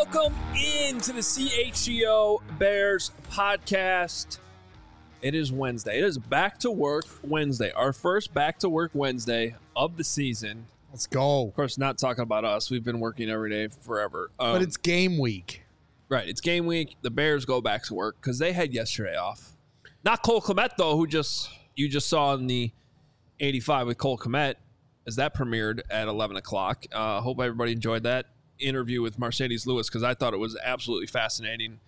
Welcome into the CHGO Bears podcast. It is Wednesday. It is back to work Wednesday. Our first back to work Wednesday of the season. Let's go. Of course, not talking about us. We've been working every day forever. But it's game week. Right. It's game week. The Bears go back to work because they had yesterday off. Not Cole Kmet, though, who you just saw in the 85 with Cole Kmet as that premiered at 11 o'clock. Hope everybody enjoyed that interview with Mercedes Lewis because I thought it was absolutely fascinating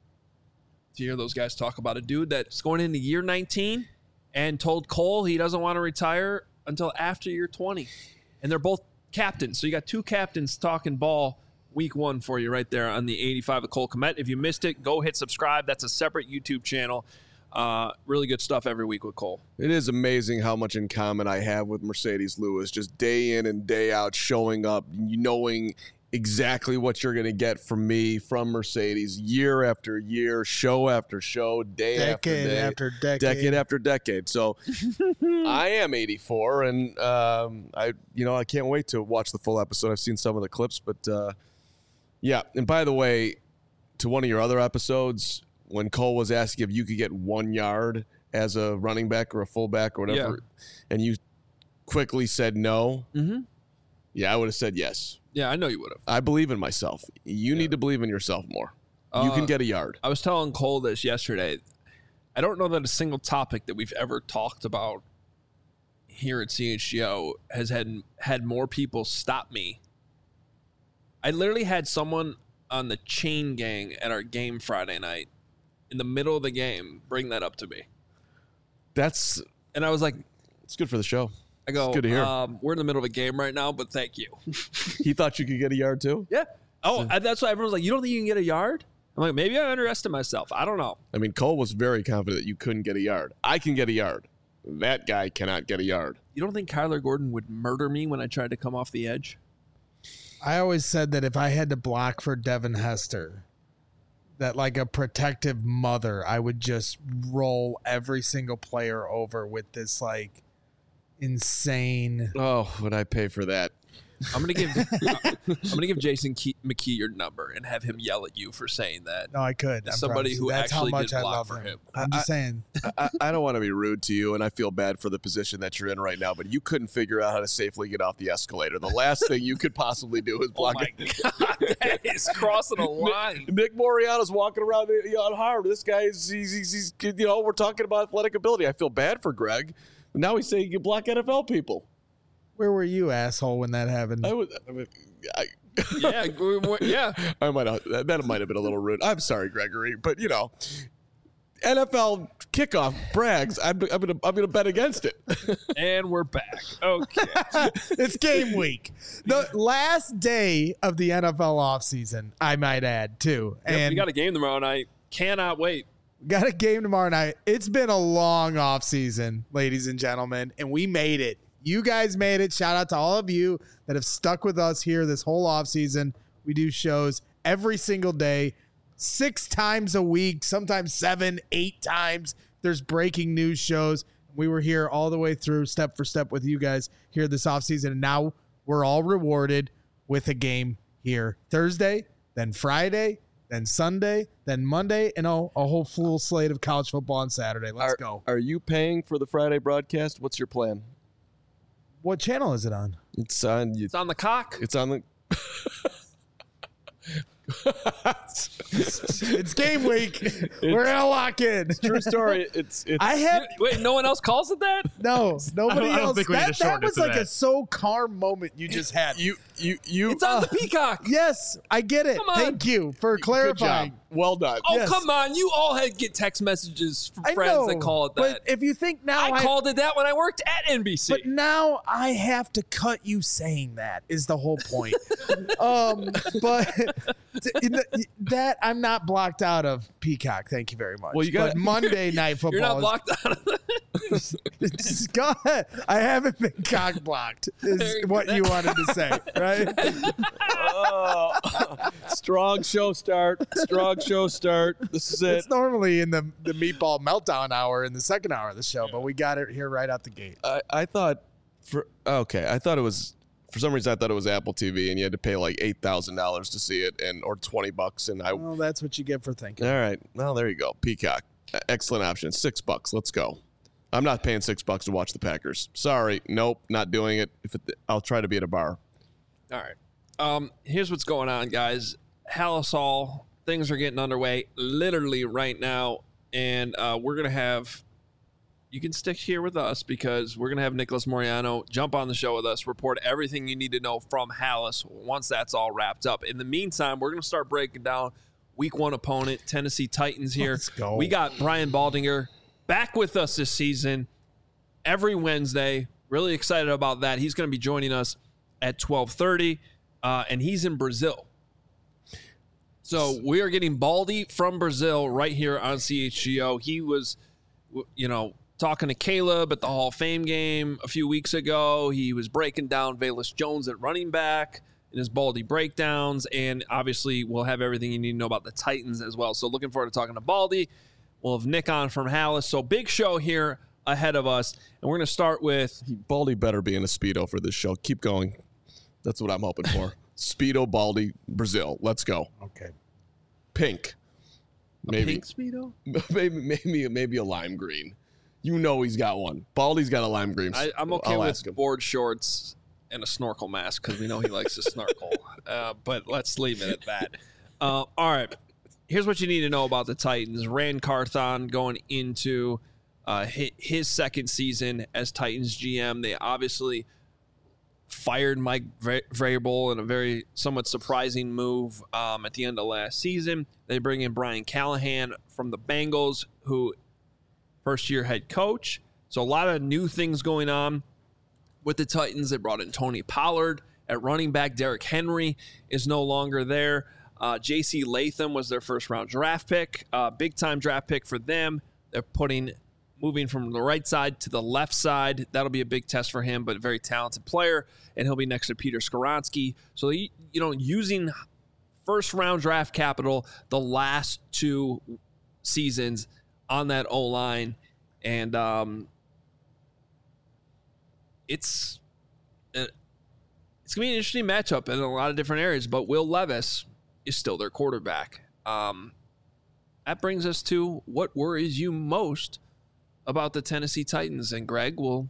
to hear those guys talk about a dude that's going into year 19 and told Cole he doesn't want to retire until after year 20. And they're both captains. So you got two captains talking ball week one for you right there on the 85 of Cole Kmet. If you missed it, go hit subscribe. That's a separate YouTube channel. Really good stuff every week with Cole. It is amazing how much in common I have with Mercedes Lewis, just day in and day out, showing up, knowing exactly what you're going to get from me, from Mercedes, year after year, show after show, decade after decade after decade. So I am 84, and I can't wait to watch the full episode. I've seen some of the clips, but yeah. And by the way, to one of your other episodes, when Cole was asking if you could get 1 yard as a running back or a fullback or whatever, and you quickly said no, yeah, I would have said yes. Yeah, I know you would have. I believe in myself. You need to believe in yourself more. You can get a yard. I was telling Cole this yesterday. I don't know that a single topic that we've ever talked about here at CHGO has had more people stop me. I literally had someone on the chain gang at our game Friday night in the middle of the game bring that up to me. And I was like, it's good for the show. I go, it's good to hear. We're in the middle of a game right now, but thank you. He thought you could get a yard too? Yeah. Oh, that's why everyone's like, you don't think you can get a yard? I'm like, maybe I underestimate myself. I don't know. I mean, Cole was very confident that you couldn't get a yard. I can get a yard. That guy cannot get a yard. You don't think Kyler Gordon would murder me when I tried to come off the edge? I always said that if I had to block for Devin Hester, that like a protective mother, I would just roll every single player over with this like insane. Oh, would I pay for that? I'm gonna give Jason McKee your number and have him yell at you for saying that. No, I could. Somebody who That's actually how much did I block love for him. I'm just saying. I don't want to be rude to you, and I feel bad for the position that you're in right now, but you couldn't figure out how to safely get off the escalator. The last thing you could possibly do is block it. Oh my God, that is crossing a line. Nick Moriano's walking around on hard. This guy he's we're talking about athletic ability. I feel bad for Greg. Now he's saying he can block NFL people. Where were you, asshole, when that happened? Yeah. I might have, that might have been a little rude. I'm sorry, Gregory, but NFL kickoff brags. I'm gonna bet against it. And we're back. Okay, it's game week, the last day of the NFL offseason, I might add too. And we got a game tomorrow night. Cannot wait. Got a game tomorrow night. It's been a long offseason, ladies and gentlemen, and we made it. You guys made it. Shout out to all of you that have stuck with us here this whole offseason. We do shows every single day, 6 times a week, sometimes 7, 8 times. There's breaking news shows. We were here all the way through, step for step with you guys here this offseason, and now we're all rewarded with a game here Thursday, then Friday, then Sunday, then Monday, and a whole full slate of college football on Saturday. Let's go. Are you paying for the Friday broadcast? What's your plan? What channel is it on? It's on. It's on the cock. It's on the. It's game week. We're gonna lock in. True story. Wait, no one else calls it that? No, nobody I don't else. think we need to That shorten it was to like that. a so calm moment you just had. You. It's on the Peacock. Yes, I get it. Come on. Thank you for Good clarifying. job. Well done. Oh, Yes. come on. You all get text messages from I friends know, that call it that. But if you think now I called it that when I worked at NBC. But now I have to cut you saying that is the whole point. But that I'm not blocked out of Peacock. Thank you very much. Well, you got Monday Night Football. You're not is- blocked out of that. Go ahead. I haven't been cock blocked, is what you wanted to say, right? Strong show start. This is it. It's normally in the meatball meltdown hour in the second hour of the show, but we got it here right out the gate. I thought it was For some reason, I thought it was Apple TV, and you had to pay like $8,000 to see it, or $20. And Well, that's what you get for thinking. all right, well, there you go. Peacock, excellent option. $6. Let's go. I'm not paying $6 to watch the Packers. Sorry, nope, not doing it. I'll try to be at a bar. All right. Here's what's going on, guys. Halas Hall, things are getting underway literally right now, and we're going to have, you can stick here with us because we're going to have Nicholas Moriano jump on the show with us, report everything you need to know from Halas once that's all wrapped up. In the meantime, we're going to start breaking down week 1 opponent, Tennessee Titans here. Let's go. We got Brian Baldinger back with us this season every Wednesday. Really excited about that. He's going to be joining us at 12:30, and he's in Brazil. So we are getting Baldy from Brazil right here on CHGO. He was, talking to Caleb at the Hall of Fame game a few weeks ago. He was breaking down Velus Jones at running back in his Baldy breakdowns, and obviously we'll have everything you need to know about the Titans as well. So looking forward to talking to Baldy. We'll have Nick on from Halas. So big show here ahead of us, and we're going to start with... Baldy better be in a Speedo for this show. Keep going. That's what I'm hoping for. Speedo, Baldy, Brazil. Let's go. Okay. Pink. Maybe. Pink Speedo? Maybe a lime green. You know he's got one. Baldy's got a lime green. I'm okay I'll with ask him. board shorts and a snorkel mask because we know he likes to snorkel. But let's leave it at that. All right. Here's what you need to know about the Titans. Rand Carthon going into his second season as Titans GM. They obviously fired Mike Vrabel in a very somewhat surprising move at the end of last season. They bring in Brian Callahan from the Bengals, who first-year head coach. So a lot of new things going on with the Titans. They brought in Tony Pollard at running back. Derrick Henry is no longer there. J.C. Latham was their first-round draft pick. Big-time draft pick for them. They're moving from the right side to the left side. That'll be a big test for him, but a very talented player, and he'll be next to Peter Skoronski. So, using first-round draft capital the last 2 seasons on that O-line, and it's going to be an interesting matchup in a lot of different areas, but Will Levis is still their quarterback. That brings us to what worries you most about the Tennessee Titans, and Greg, will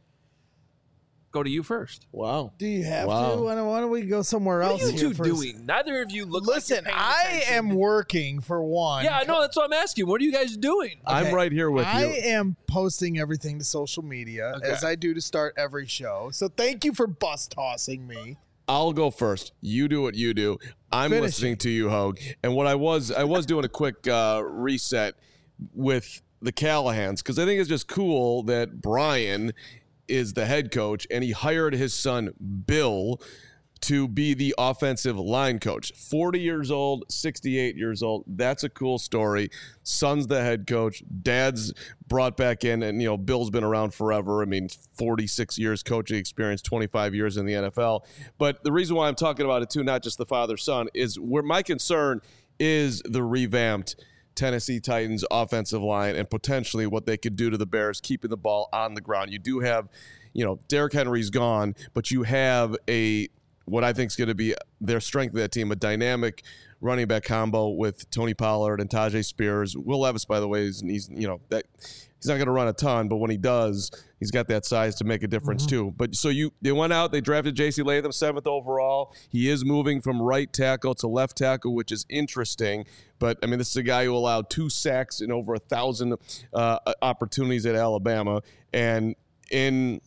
go to you first. Wow. Do you have Wow. to? Why don't we go somewhere What else? are you here two first? doing? Neither of you look Listen, like you're paying I attention. am working for one. Yeah, I know. That's what I'm asking. What are you guys doing? I'm right here with I you. am posting everything to social media Okay. as I do to start every show. So thank you for bus tossing me. I'll go first. You do what you do. I'm Finish listening to you, Hogue. And what I was doing a quick reset with the Callahans, because I think it's just cool that Brian is the head coach and he hired his son Bill to be the offensive line coach. 40 years old, 68 years old. That's a cool story. Son's the head coach. Dad's brought back in, and Bill's been around forever. I mean, 46 years coaching experience, 25 years in the NFL. But the reason why I'm talking about it too, not just the father-son, is where my concern is the revamped Tennessee Titans offensive line and potentially what they could do to the Bears keeping the ball on the ground. You do have, Derrick Henry's gone, but you have what I think is going to be their strength of that team, a dynamic running back combo with Tony Pollard and Tajay Spears. Will Levis, by the way, he's not going to run a ton, but when he does, he's got that size to make a difference too. But so they went out, they drafted J.C. Latham 7th overall. He is moving from right tackle to left tackle, which is interesting. But I mean, this is a guy who allowed 2 sacks in over 1,000 opportunities at Alabama, and in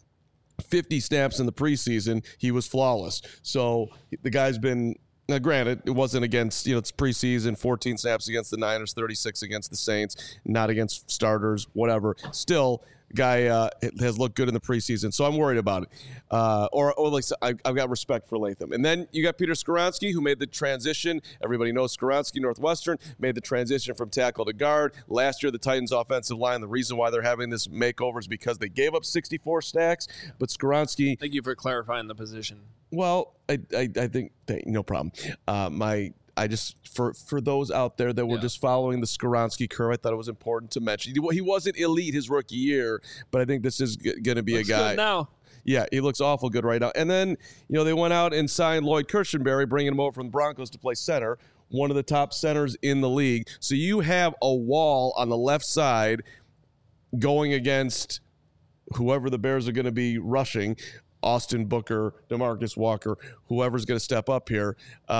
50 snaps in the preseason, he was flawless. So the guy's been, now granted, it wasn't against, it's preseason, 14 snaps against the Niners, 36 against the Saints, not against starters, whatever. Still, guy has looked good in the preseason, so I'm worried about it. Or like I've got respect for Latham. And then you got Peter Skoronski, who made the transition. Everybody knows Skoronski, Northwestern, made the transition from tackle to guard. Last year, the Titans' offensive line, the reason why they're having this makeover is because they gave up 64 sacks, but Skoronski... Thank you for clarifying the position. Well, I think no problem. I just for those out there that were just following the Skoronski curve, I thought it was important to mention he wasn't elite his rookie year, but I think this is going to be Looks a guy. good now. Yeah, he looks awful good right now. And then, they went out and signed Lloyd Kirschenberry, bringing him over from the Broncos to play center, one of the top centers in the league. So you have a wall on the left side going against whoever the Bears are going to be rushing, Austin Booker, DeMarcus Walker, whoever's going to step up here.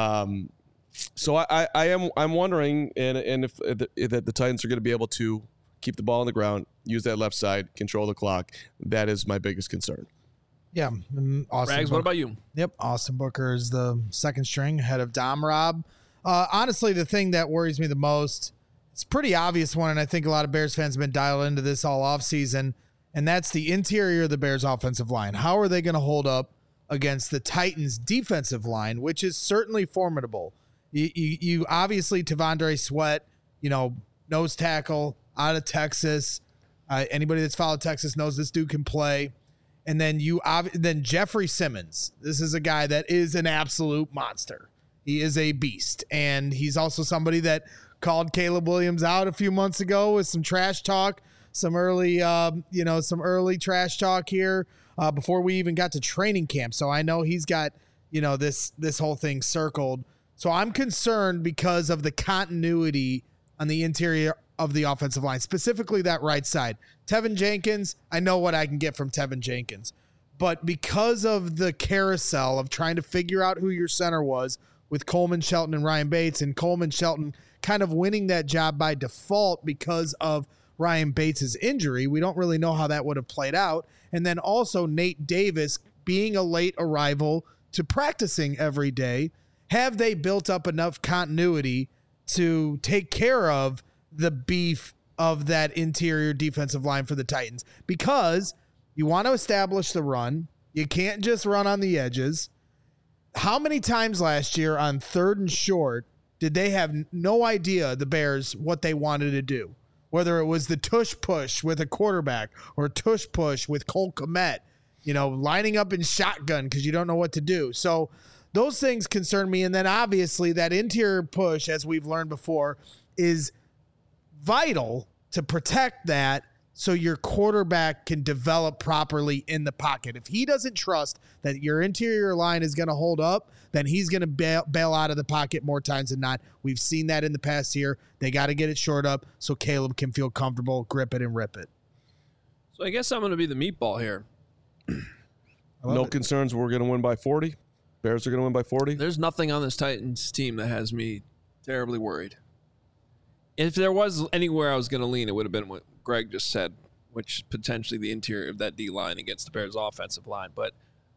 So I'm wondering if the Titans are going to be able to keep the ball on the ground, use that left side, control the clock. That is my biggest concern. Yeah. Rags, what about you? Yep. Austin Booker is the second string ahead of Dom Rob. Honestly, the thing that worries me the most, it's a pretty obvious one, and I think a lot of Bears fans have been dialed into this all offseason, and that's the interior of the Bears offensive line. How are they going to hold up against the Titans defensive line, which is certainly formidable? You obviously, Tavondre Sweat, nose tackle out of Texas. Anybody that's followed Texas knows this dude can play. And then then Jeffrey Simmons. This is a guy that is an absolute monster. He is a beast. And he's also somebody that called Caleb Williams out a few months ago with some trash talk, some early trash talk here before we even got to training camp. So I know he's got, this whole thing circled. So I'm concerned because of the continuity on the interior of the offensive line, specifically that right side. Tevin Jenkins, I know what I can get from Tevin Jenkins. But because of the carousel of trying to figure out who your center was with Coleman Shelton and Ryan Bates, and Coleman Shelton kind of winning that job by default because of Ryan Bates' injury, we don't really know how that would have played out. And then also Nate Davis being a late arrival to practicing every day. Have they built up enough continuity to take care of the beef of that interior defensive line for the Titans? Because you want to establish the run. You can't just run on the edges. How many times last year on 3rd and short did they have no idea, the Bears, what they wanted to do? Whether it was the tush push with a quarterback or tush push with Cole Kmet, lining up in shotgun because you don't know what to do. So those things concern me. And then obviously that interior push, as we've learned before, is vital to protect that so your quarterback can develop properly in the pocket. If he doesn't trust that your interior line is going to hold up, then he's going to bail out of the pocket more times than not. We've seen that in the past year. They got to get it short up so Caleb can feel comfortable, grip it, and rip it. So I guess I'm going to be the meatball here. No concerns we're going to win by 40? Bears are going to win by 40? There's nothing on this Titans team that has me terribly worried. If there was anywhere I was going to lean, it would have been what Greg just said, which potentially the interior of that D-line against the Bears' offensive line. But,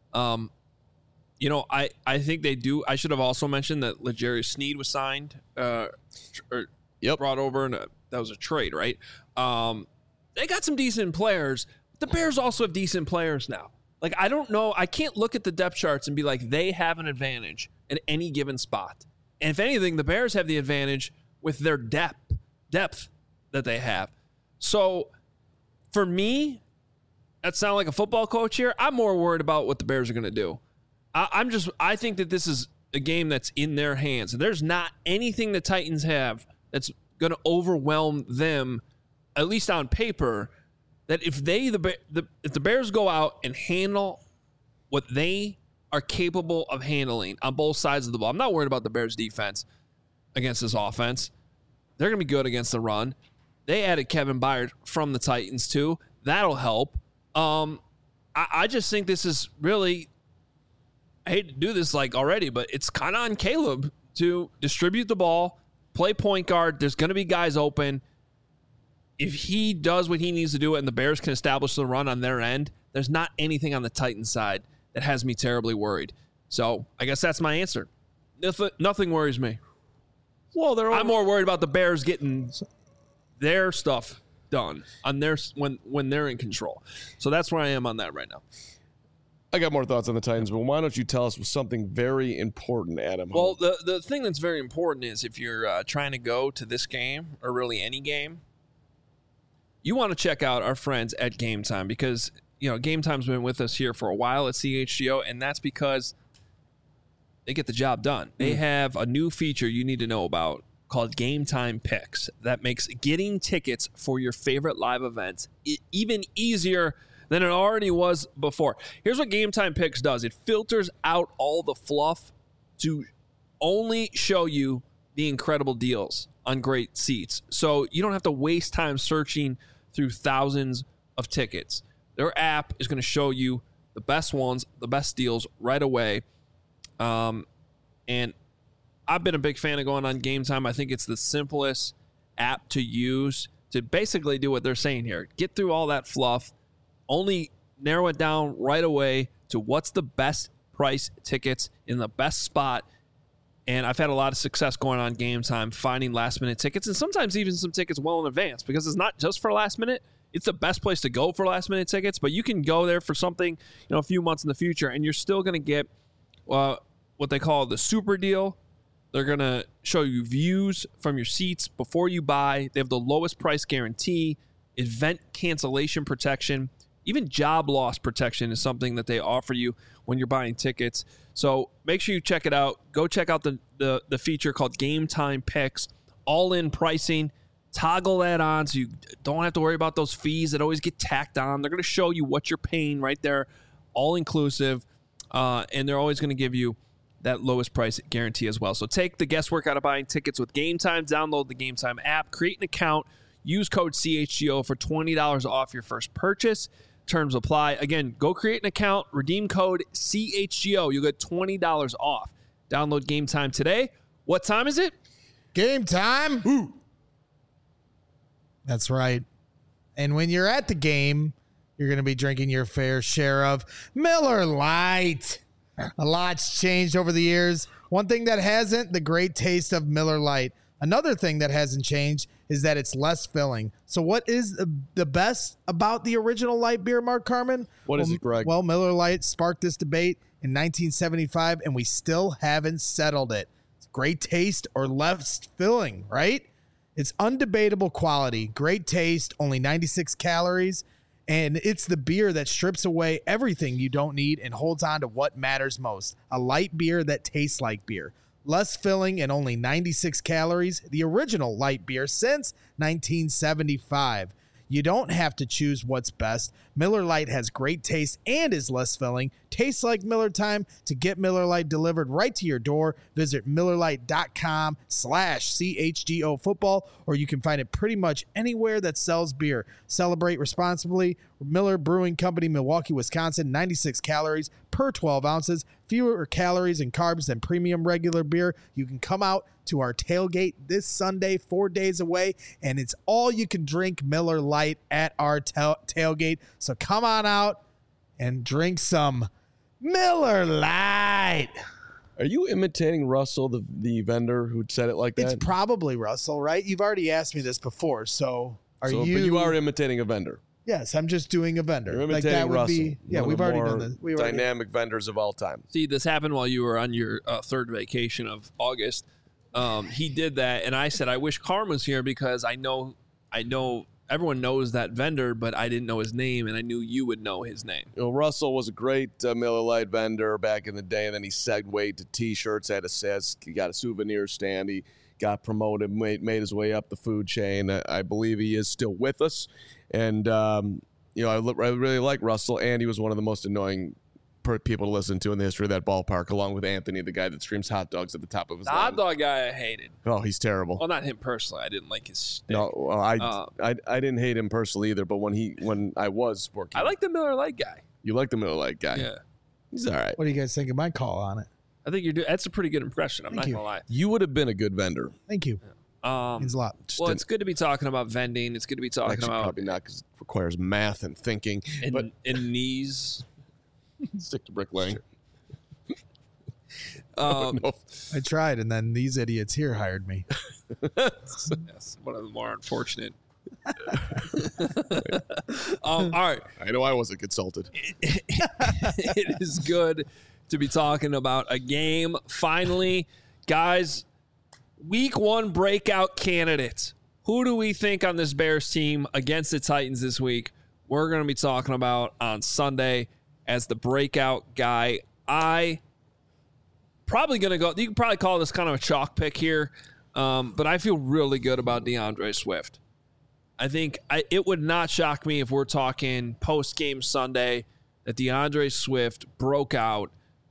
I think they do. I should have also mentioned that L'Jarius Sneed was signed brought over, and that was a trade, right? They got some decent players. The Bears also have decent players now. Like, I don't know. I can't look at the depth charts and be like, they have an advantage at any given spot. And if anything, the Bears have the advantage with their depth that they have. So for me, that sounds like a football coach here. I'm more worried about what the Bears are going to do. I think that this is a game that's in their hands. There's not anything the Titans have that's going to overwhelm them, at least on paper, that if the Bears go out and handle what they are capable of handling on both sides of the ball. I'm not worried about the Bears defense against this offense. They're going to be good against the run. They added Kevin Byard from the Titans too. That'll help. I just think this is really, I hate to do this already, but it's kind of on Caleb to distribute the ball, play point guard. There's going to be guys open. If he does what he needs to do and the Bears can establish the run on their end, there's not anything on the Titans side that has me terribly worried. So I guess that's my answer. Nothing worries me. Well, I'm more worried about the Bears getting their stuff done on their when they're in control. So that's where I am on that right now. I got more thoughts on the Titans, but why don't you tell us something very important, Adam? Well, the thing that's very important is if you're trying to go to this game or really any game, you want to check out our friends at Game Time because, Game Time's been with us here for a while at CHGO, and that's because they get the job done. They have a new feature you need to know about called Game Time Picks that makes getting tickets for your favorite live events even easier than it already was before. Here's what Game Time Picks does. It filters out all the fluff to only show you the incredible deals on great seats. So you don't have to waste time searching through thousands of tickets. Their app is going to show you the best ones, the best deals right away. And I've been a big fan of going on Game Time. I think it's the simplest app to use to basically do what they're saying here. Get through all that fluff, only narrow it down right away to what's the best price tickets in the best spot. And I've had a lot of success going on Game Time, finding last-minute tickets, and sometimes even some tickets well in advance, because it's not just for last minute. It's the best place to go for last-minute tickets, but you can go there for something, a few months in the future, and you're still going to get what they call the super deal. They're going to show you views from your seats before you buy. They have the lowest price guarantee, event cancellation protection, even job loss protection is something that they offer you when you're buying tickets. So make sure you check it out. Go check out the feature called Game Time Picks, all-in pricing. Toggle that on so you don't have to worry about those fees that always get tacked on. They're going to show you what you're paying right there, all-inclusive, and they're always going to give you that lowest price guarantee as well. So take the guesswork out of buying tickets with Game Time. Download the Game Time app, create an account, use code CHGO for $20 off your first purchase. Terms apply. Again, go create an account, redeem code CHGO. You'll get $20 off. Download Game Time today. What time is it? Game time. Ooh. That's right. And when you're at the game, you're going to be drinking your fair share of Miller Lite. A lot's changed over the years. One thing that hasn't, the great taste of Miller Lite. Another thing that hasn't changed is that it's less filling. So what is the best about the original light beer, Mark Carman? What is it, Greg? Well, Miller Lite sparked this debate in 1975, and we still haven't settled it. It's great taste or less filling, right? It's undebatable quality, great taste, only 96 calories, and it's the beer that strips away everything you don't need and holds on to what matters most. A light beer that tastes like beer. Less filling and only 96 calories, the original light beer since 1975. You don't have to choose what's best. Miller Lite has great taste and is less filling. Tastes like Miller time. To get Miller Lite delivered right to your door, visit MillerLite.com/CHGO football, or you can find it pretty much anywhere that sells beer. Celebrate responsibly. Miller Brewing Company, Milwaukee, Wisconsin, 96 calories per 12 ounces, fewer calories and carbs than premium regular beer. You can come out to our tailgate this Sunday, 4 days away, and it's all you can drink Miller Lite at our tailgate. So come on out and drink some Miller Lite. Are you imitating Russell, the vendor who said it like that? It's probably Russell, right? You've already asked me this before, so are you? But you are imitating a vendor. Yes, I'm just doing a vendor. You're imitating like that would Russell. be. Yeah, we've already done this. We dynamic vendors of all time. See, this happened while you were on your third vacation of August. He did that, and I said, I wish Carm was here because I know everyone knows that vendor, but I didn't know his name, and I knew you would know his name. You know, Russell was a great Miller Lite vendor back in the day, and then he segued to T-shirts. He got a souvenir stand. He got promoted, made his way up the food chain. I believe he is still with us, and I really like Russell, and he was one of the most annoying people to listen to in the history of that ballpark, along with Anthony, the guy that streams hot dogs at the top of his hot dog guy I hated. Oh, he's terrible. Well, not him personally. I didn't like his shtick. No, well, I didn't hate him personally either. But when I was working, I like the Miller Lite guy. You like the Miller Lite guy? Yeah, he's all right. What do you guys think of my call on it? I think you're doing. That's a pretty good impression. I'm not gonna lie. You would have been a good vendor. Thank you. Means a lot. Well, it's good to be talking about vending. It's good to be talking about probably not because it requires math and thinking, but knees. Stick to bricklaying. I tried, and then these idiots here hired me. Yes, one of the more unfortunate. All right. I know I wasn't consulted. It is good to be talking about a game. Finally, guys, week one breakout candidates. Who do we think on this Bears team against the Titans this week? We're going to be talking about on Sunday as the breakout guy. I probably going to go. You can probably call this kind of a chalk pick here, but I feel really good about DeAndre Swift. I think it would not shock me if we're talking post-game Sunday that DeAndre Swift broke out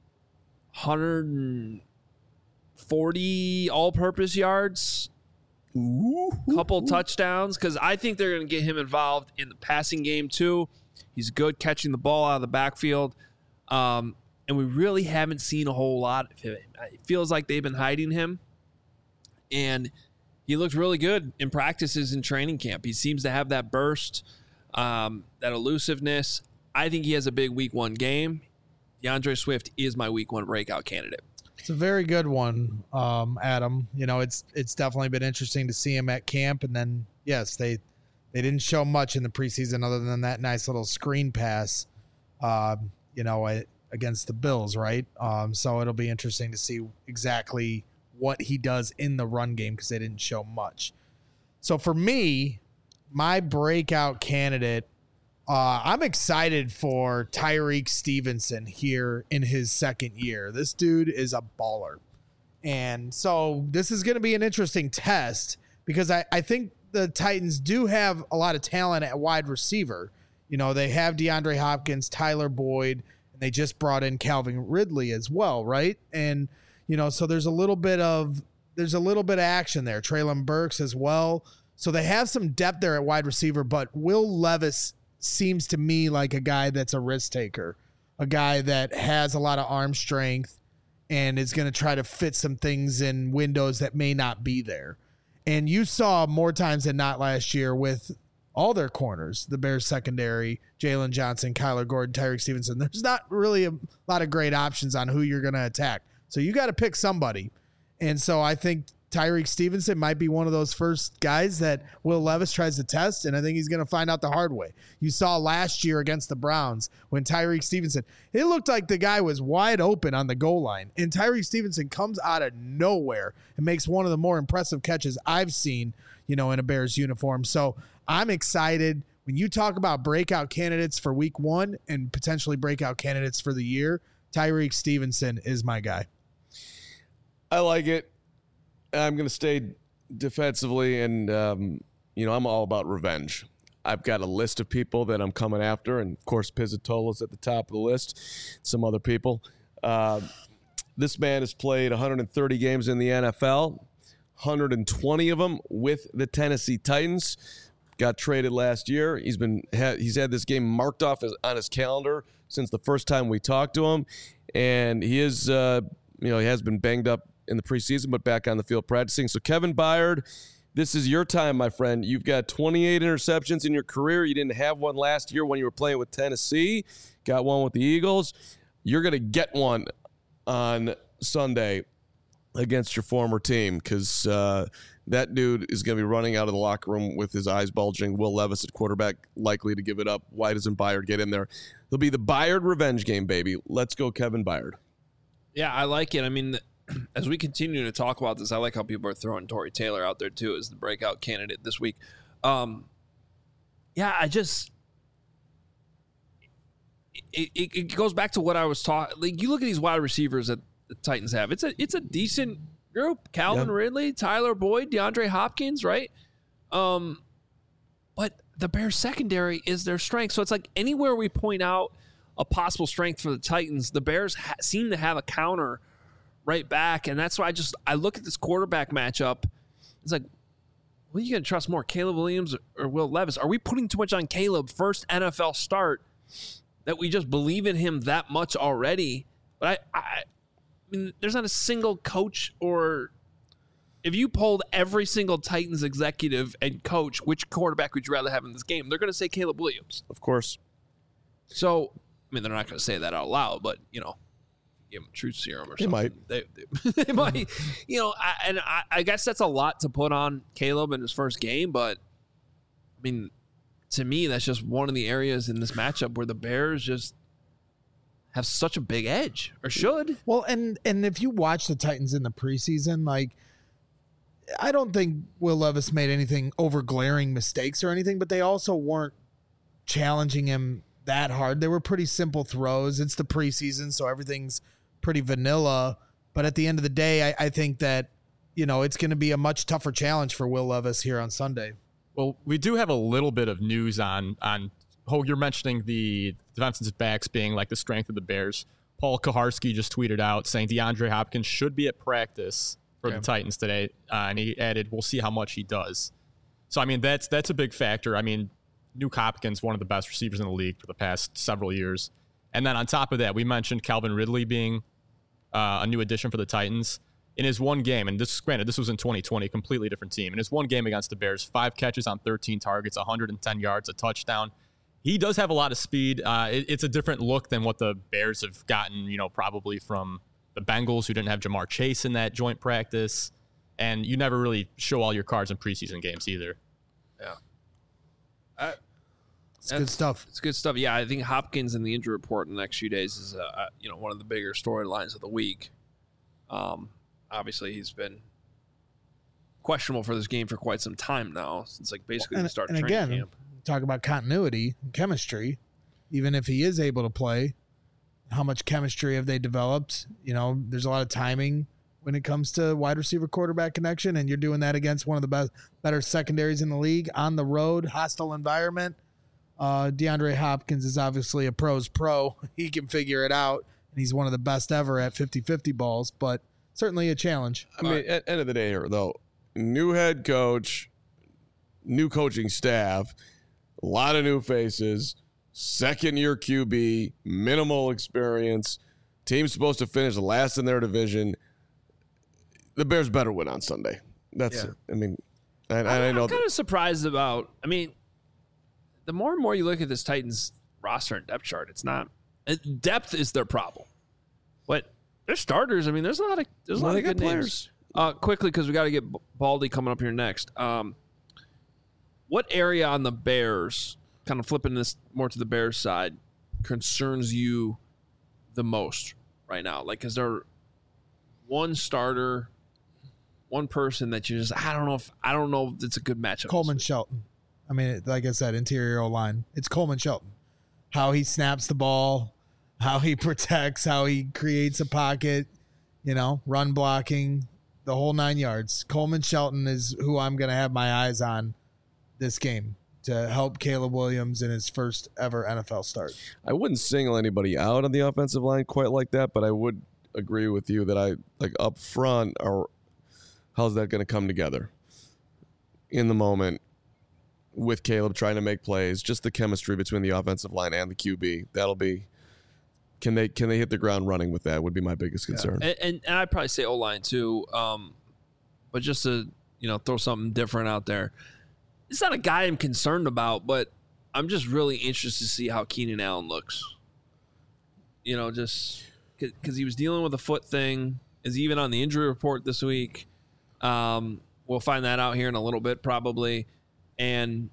140 all-purpose yards, couple touchdowns, because I think they're going to get him involved in the passing game too. He's good catching the ball out of the backfield. And we really haven't seen a whole lot of him. It feels like they've been hiding him. And he looked really good in practices and training camp. He seems to have that burst, that elusiveness. I think he has a big week 1 game. DeAndre Swift is my week 1 breakout candidate. It's a very good one, Adam. You know, it's definitely been interesting to see him at camp. And then, yes, they didn't show much in the preseason other than that nice little screen pass, against the Bills, right? So it'll be interesting to see exactly what he does in the run game because they didn't show much. So for me, my breakout candidate, I'm excited for Tyreek Stevenson here in his second year. This dude is a baller. And so this is going to be an interesting test because I think the Titans do have a lot of talent at wide receiver. You know, they have DeAndre Hopkins, Tyler Boyd, and they just brought in Calvin Ridley as well, right? And, you know, so there's a little bit of action there. Treylon Burks as well. So they have some depth there at wide receiver, but Will Levis seems to me like a guy that's a risk taker, a guy that has a lot of arm strength and is going to try to fit some things in windows that may not be there. And you saw more times than not last year with all their corners, the Bears secondary, Jalen Johnson, Kyler Gordon, Tyreek Stevenson. There's not really a lot of great options on who you're going to attack. So you got to pick somebody. And so I think Tyreek Stevenson might be one of those first guys that Will Levis tries to test, and I think he's going to find out the hard way. You saw last year against the Browns when Tyreek Stevenson, it looked like the guy was wide open on the goal line, and Tyreek Stevenson comes out of nowhere and makes one of the more impressive catches I've seen, in a Bears uniform. So I'm excited. When you talk about breakout candidates for week 1 and potentially breakout candidates for the year, Tyreek Stevenson is my guy. I like it. I'm going to stay defensively, and, I'm all about revenge. I've got a list of people that I'm coming after, and, of course, Pizzatola's at the top of the list, some other people. This man has played 130 games in the NFL, 120 of them with the Tennessee Titans. Got traded last year. He's had this game marked off on his calendar since the first time we talked to him, and he is, he has been banged up in the preseason, but back on the field practicing. So Kevin Byard, this is your time, my friend. You've got 28 interceptions in your career. You didn't have one last year when you were playing with Tennessee. Got one with the Eagles. You're going to get one on Sunday against your former team because that dude is going to be running out of the locker room with his eyes bulging. Will Levis at quarterback, likely to give it up. Why doesn't Byard get in there? It'll be the Byard revenge game, baby. Let's go, Kevin Byard. Yeah, I like it. I mean, as we continue to talk about this, I like how people are throwing Torrey Taylor out there too as the breakout candidate this week. It goes back to what I was talking. Like, you look at these wide receivers that the Titans have. It's a decent group. Calvin Ridley, Tyler Boyd, DeAndre Hopkins, right? But the Bears secondary is their strength. So it's like anywhere we point out a possible strength for the Titans, the Bears seem to have a counter right back. And that's why I look at this quarterback matchup. It's like, who are you going to trust more, Caleb Williams or Will Levis? Are we putting too much on Caleb? First NFL start, that we just believe in him that much already. But I mean, there's not a single coach, or if you polled every single Titans executive and coach, which quarterback would you rather have in this game? They're going to say Caleb Williams. Of course. So, I mean, they're not going to say that out loud, but, give them a truth serum or something. They might, I guess that's a lot to put on Caleb in his first game, but I mean, to me, that's just one of the areas in this matchup where the Bears just have such a big edge, or should. Well, and if you watch the Titans in the preseason, like, I don't think Will Levis made anything over glaring mistakes or anything, but they also weren't challenging him that hard. They were pretty simple throws. It's the preseason, so everything's pretty vanilla. But at the end of the day, I think that, it's going to be a much tougher challenge for Will Levis here on Sunday. Well, we do have a little bit of news on Hogue, you're mentioning the defensive backs being like the strength of the Bears. Paul Kaharski just tweeted out saying DeAndre Hopkins should be at practice for the Titans today. And he added, we'll see how much he does. So, I mean, that's a big factor. I mean, Nuke Hopkins, one of the best receivers in the league for the past several years. And then on top of that, we mentioned Calvin Ridley being a new addition for the Titans. In his one game, and this was in 2020, completely different team. In his one game against the Bears, 5 catches on 13 targets, 110 yards, a touchdown. He does have a lot of speed. It's a different look than what the Bears have gotten, probably from the Bengals, who didn't have Jamar Chase in that joint practice. And you never really show all your cards in preseason games either. Yeah. It's good stuff. It's good stuff. Yeah, I think Hopkins in the injury report in the next few days is, one of the bigger storylines of the week. Obviously, he's been questionable for this game for quite some time now, since basically the start of training camp. Talk about continuity and chemistry. Even if he is able to play, how much chemistry have they developed? There's a lot of timing when it comes to wide receiver quarterback connection, and you're doing that against one of the better secondaries in the league on the road, hostile environment. DeAndre Hopkins is obviously a pro's pro. He can figure it out, and he's one of the best ever at 50-50 balls, but certainly a challenge. I mean, at the end of the day here, though, new head coach, new coaching staff, a lot of new faces, second-year QB, minimal experience, team's supposed to finish last in their division. The Bears better win on Sunday. That's it. I mean, and I know I'm kind of surprised about, the more and more you look at this Titans roster and depth chart, it's not, depth is their problem. But they're starters. There's a lot of good players. Quickly, because we got to get Baldy coming up here next. What area on the Bears, kind of flipping this more to the Bears side, concerns you the most right now? Is there one starter, one person that you just, I don't know if it's a good matchup? Coleman Shelton. Like I said, interior O-line. It's Coleman Shelton. How he snaps the ball, how he protects, how he creates a pocket, run blocking, the whole 9 yards. Coleman Shelton is who I'm going to have my eyes on this game to help Caleb Williams in his first ever NFL start. I wouldn't single anybody out on the offensive line quite like that, but I would agree with you that up front, or how's that going to come together in the moment with Caleb trying to make plays, just the chemistry between the offensive line and the QB. That'll be, can they hit the ground running with that would be my biggest concern. Yeah. And I'd probably say O-line too, but just to throw something different out there. It's not a guy I'm concerned about, but I'm just really interested to see how Keenan Allen looks. Just because he was dealing with a foot thing, is even on the injury report this week. We'll find that out here in a little bit probably. And,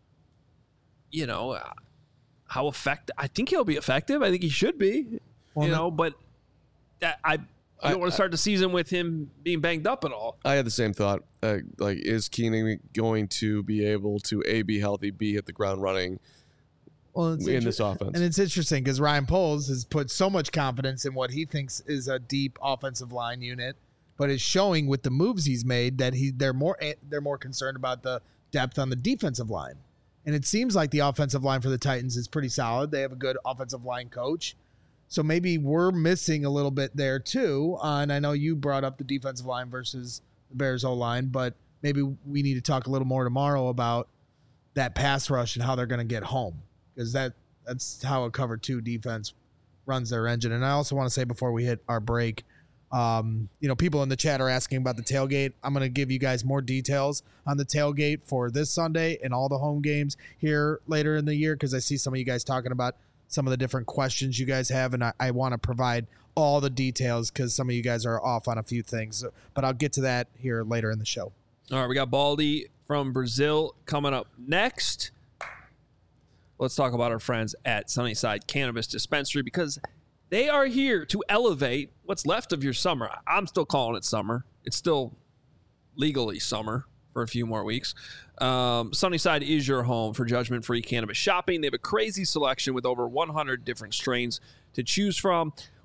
how effective, I think he'll be effective. I think he should be, but I don't want to start the season with him being banged up at all. I had the same thought. Is Keenan going to be able to A, be healthy, B, hit the ground running in this offense? And it's interesting because Ryan Poles has put so much confidence in what he thinks is a deep offensive line unit, but is showing with the moves he's made that they're more concerned about the depth on the defensive line. And it seems like the offensive line for the Titans is pretty solid. They have a good offensive line coach. So maybe we're missing a little bit there too. And I know you brought up the defensive line versus the Bears O-line, but maybe we need to talk a little more tomorrow about that pass rush and how they're going to get home, because that's how a cover 2 defense runs their engine. And I also want to say before we hit our break, people in the chat are asking about the tailgate. I'm going to give you guys more details on the tailgate for this Sunday and all the home games here later in the year, because I see some of you guys talking about some of the different questions you guys have, and I want to provide all the details because some of you guys are off on a few things. But I'll get to that here later in the show. All right, we got Baldy from Brazil coming up next. Let's talk about our friends at Sunnyside Cannabis Dispensary, because they are here to elevate what's left of your summer. I'm still calling it summer. It's still legally summer for a few more weeks. Sunnyside is your home for judgment-free cannabis shopping. They have a crazy selection with over 100 different strains to choose from.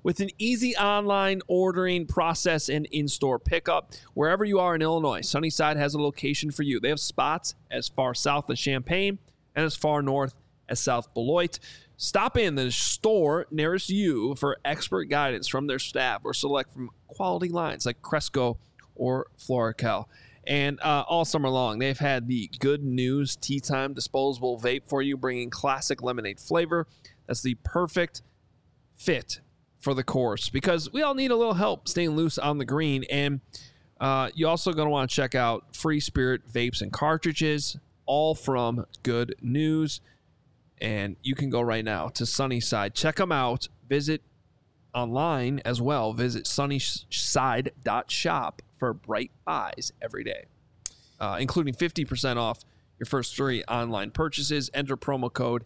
with an easy online ordering process and in-store pickup. Wherever you are in Illinois, Sunnyside has a location for you. They have spots as far south as Champaign and as far north as South Beloit. Stop in the store nearest you for expert guidance from their staff or select from quality lines like Cresco or Florical. And all summer long, they've had the Good News Tea Time disposable vape for you, bringing classic lemonade flavor. That's the perfect fit for the course because we all need a little help staying loose on the green. And you also going to want to check out Free Spirit vapes and cartridges, all from Good News. And you can go right now to Sunnyside. Check them out. Visit online as well. Visit sunnyside.shop for bright buys every day, including 50% off your first 3 online purchases. Enter promo code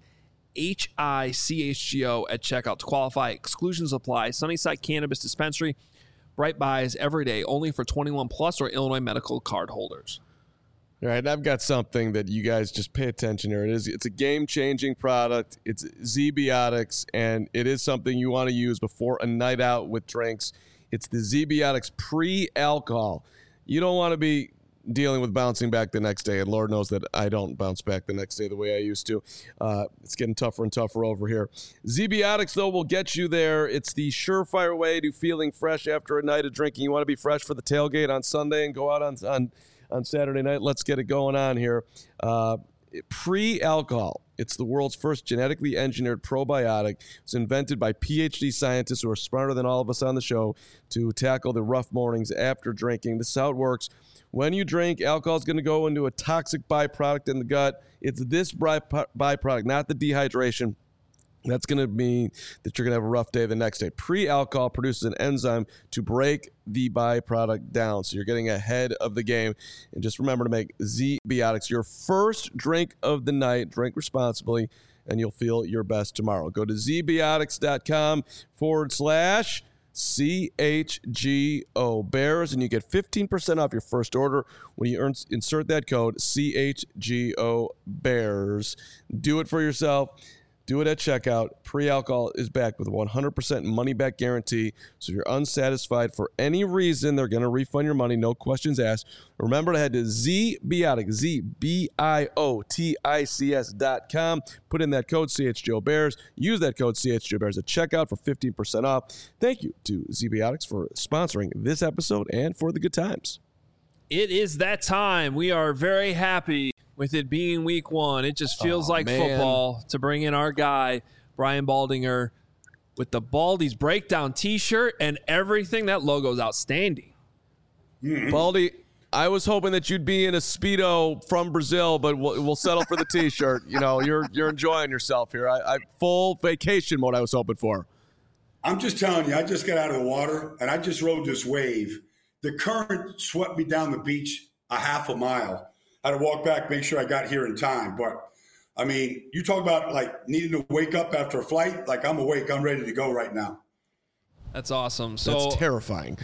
HICHGO at checkout to qualify. Exclusions apply. Sunnyside Cannabis Dispensary. Bright buys every day, only for 21 plus or Illinois medical card holders. All right, I've got something that you guys just pay attention here. It's a game-changing product. It's ZBiotics, and it is something you want to use before a night out with drinks. It's the ZBiotics pre-alcohol. You don't want to be dealing with bouncing back the next day, and Lord knows that I don't bounce back the next day the way I used to. It's getting tougher and tougher over here. ZBiotics, though, will get you there. It's the surefire way to feeling fresh after a night of drinking. You want to be fresh for the tailgate on Sunday and go out on Saturday night. Let's get it going on here. Pre-alcohol. It's the world's first genetically engineered probiotic. It was invented by PhD scientists who are smarter than all of us on the show to tackle the rough mornings after drinking. This is how it works. When you drink, alcohol is going to go into a toxic byproduct in the gut. It's this byproduct, not the dehydration. That's going to mean that you're going to have a rough day the next day. Pre-alcohol produces an enzyme to break the byproduct down. So you're getting ahead of the game. And just remember to make ZBiotics your first drink of the night. Drink responsibly, and you'll feel your best tomorrow. Go to zbiotics.com/CHGO Bears, and you get 15% off your first order when you insert that code CHGO Bears. Do it for yourself. Do it at checkout. Pre-alcohol is backed with a 100% money-back guarantee. So if you're unsatisfied for any reason, they're going to refund your money. No questions asked. Remember to head to ZBiotics, ZBIOTICS.com. Put in that code CHGO Bears. Use that code CHGO Bears at checkout for 15% off. Thank you to ZBiotics for sponsoring this episode and for the good times. It is that time. We are very happy with it being week 1. It just feels like football to bring in our guy, Brian Baldinger, with the Baldy's Breakdown t-shirt and everything. That logo's outstanding. Baldy, I was hoping that you'd be in a Speedo from Brazil, but we'll settle for the t-shirt. You know, you're enjoying yourself here. I full vacation mode I was hoping for. I'm just telling you, I just got out of the water, and I just rode this wave. The current swept me down the beach a half a mile. I had to walk back, make sure I got here in time. But, I mean, you talk about, like, needing to wake up after a flight. Like, I'm awake. I'm ready to go right now. That's awesome. So that's terrifying.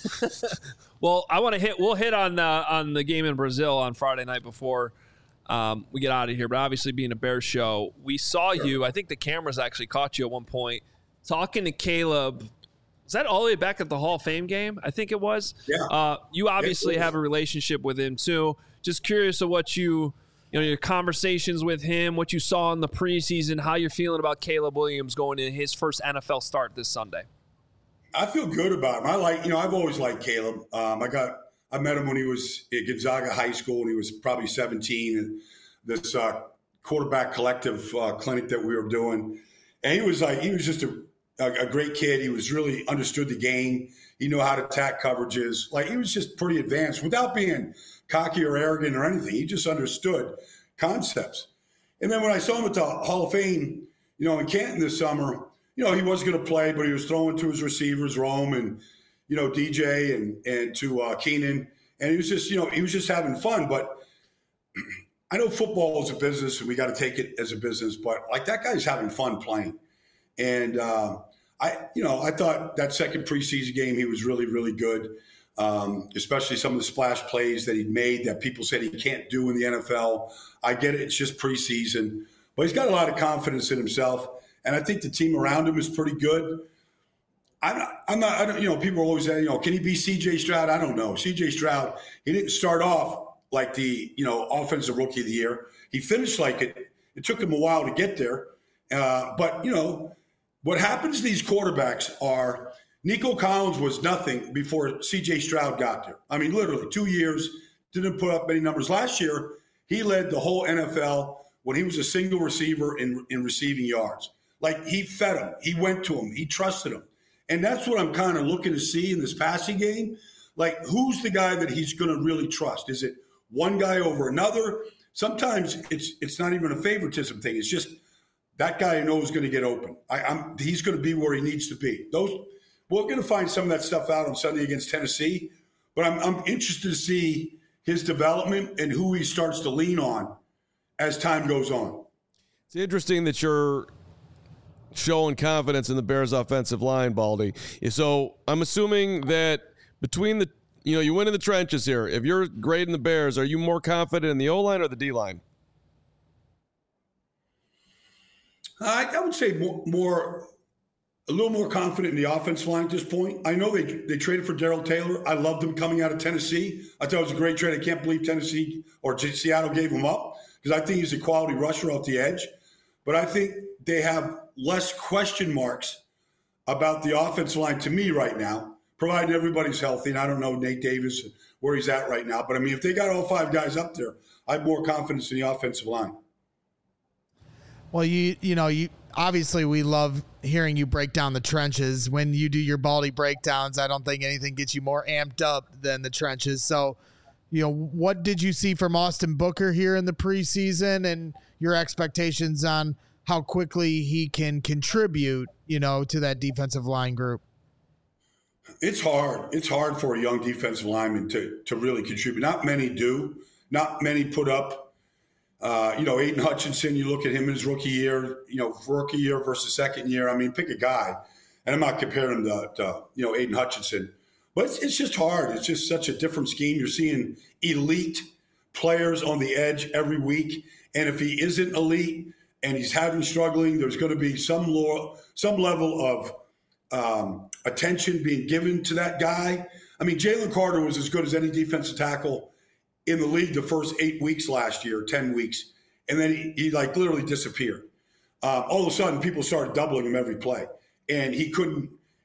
Well, we'll hit on the game in Brazil on Friday night before we get out of here. But obviously, being a Bears show, we saw you. I think the cameras actually caught you at one point talking to Caleb. Is that all the way back at the Hall of Fame game? I think it was. Yeah. You obviously have a relationship with him too. Just curious of what your conversations with him, what you saw in the preseason, how you're feeling about Caleb Williams going in his first NFL start this Sunday. I feel good about him. I've always liked Caleb. I met him when he was at Gonzaga High School, and he was probably 17, and this quarterback collective clinic that we were doing. And he was just a great kid. He was really understood the game. He knew how to attack coverages. Like, he was just pretty advanced without being cocky or arrogant or anything. He just understood concepts. And then when I saw him at the Hall of Fame, in Canton this summer, he wasn't going to play, but he was throwing to his receivers, Rome and, DJ and to Keenan. And he was just having fun. But I know football is a business and we got to take it as a business, but like, that guy's having fun playing. And I thought that second preseason game, he was really, really good. Especially some of the splash plays that he made that people said he can't do in the NFL. I get it. It's just preseason, but he's got a lot of confidence in himself. And I think the team around him is pretty good. I'm not, I don't, people always say, can he be CJ Stroud? I don't know. CJ Stroud, he didn't start off like the, offensive rookie of the year. He finished like it. It took him a while to get there. But what happens to these quarterbacks are Nico Collins was nothing before CJ Stroud got there. I mean, literally 2 years, didn't put up many numbers. Last year, he led the whole NFL when he was a single receiver in receiving yards. Like, he fed him. He went to him. He trusted him. And that's what I'm kind of looking to see in this passing game. Like, who's the guy that he's going to really trust? Is it one guy over another? Sometimes it's not even a favoritism thing. It's just that guy I know is going to get open. He's going to be where he needs to be. We're going to find some of that stuff out on Sunday against Tennessee. But I'm interested to see his development and who he starts to lean on as time goes on. It's interesting that you're showing confidence in the Bears' offensive line, Baldy. So I'm assuming that between the, you win in the trenches here. If you're grading the Bears, are you more confident in the O-line or the D-line? I would say a little more confident in the offensive line at this point. I know they traded for Darrell Taylor. I loved him coming out of Tennessee. I thought it was a great trade. I can't believe Tennessee or Seattle gave him up because I think he's a quality rusher off the edge. But I think they have less question marks about the offensive line to me right now, provided everybody's healthy. And I don't know Nate Davis, where he's at right now. But, I mean, if they got all five guys up there, I have more confidence in the offensive line. Well, you obviously we love hearing you break down the trenches. When you do your Baldy breakdowns, I don't think anything gets you more amped up than the trenches. So, what did you see from Austin Booker here in the preseason and your expectations on how quickly he can contribute, to that defensive line group? It's hard. It's hard for a young defensive lineman to really contribute. Not many do. Not many put up. Aiden Hutchinson, you look at him in his rookie year, rookie year versus second year. I mean, pick a guy. And I'm not comparing him to Aiden Hutchinson. But it's just hard. It's just such a different scheme. You're seeing elite players on the edge every week. And if he isn't elite and he's struggling, there's going to be some level of attention being given to that guy. I mean, Jalen Carter was as good as any defensive tackle in the league the first 8 weeks last year, 10 weeks. And then he literally disappeared. All of a sudden, people started doubling him every play. And he couldn't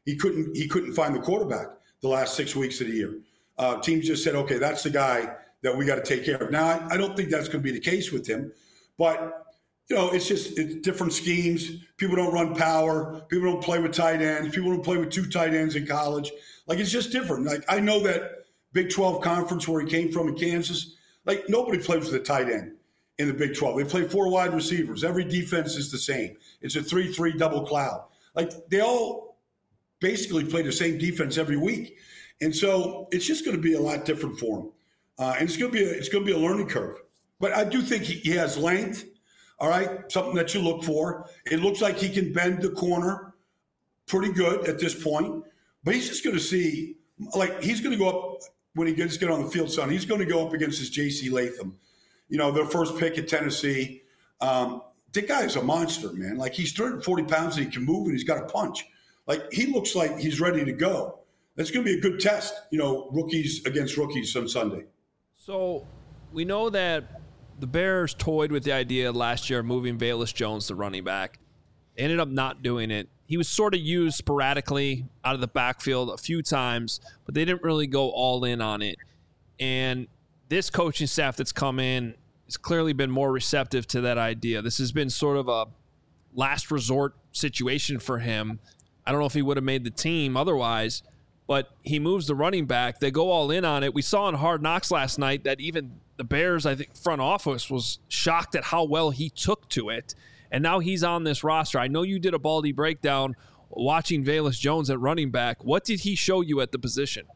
find the quarterback the last 6 weeks of the year. Teams just said, okay, that's the guy that we got to take care of. Now, I don't think that's going to be the case with him. But, it's different schemes. People don't run power. People don't play with tight ends. People don't play with two tight ends in college. It's just different. I know that Big 12 conference where he came from in Kansas, nobody plays with a tight end in the Big 12. They play four wide receivers. Every defense is the same. It's a 3-3 double cloud. They all basically play the same defense every week. And so it's just going to be a lot different for him. And it's going to be a learning curve. But I do think he has length, all right, something that you look for. It looks like he can bend the corner pretty good at this point. But he's just going to see, he's going to go up when he gets on the field, son. He's going to go up against his J.C. Latham, their first pick at Tennessee. That guy is a monster, man. He's 340 pounds and he can move and he's got a punch. He looks like he's ready to go. That's going to be a good test, rookies against rookies on Sunday. So we know that the Bears toyed with the idea last year of moving Velus Jones to running back. They ended up not doing it. He was sort of used sporadically out of the backfield a few times, but they didn't really go all in on it. And this coaching staff that's come in has clearly been more receptive to that idea. This has been sort of a last resort situation for him. I don't know if he would have made the team otherwise, but he moves the running back. They go all in on it. We saw in Hard Knocks last night that even the Bears, I think, front office was shocked at how well he took to it. And now he's on this roster. I know you did a Baldy breakdown watching Velus Jones at running back. What did he show you at the position?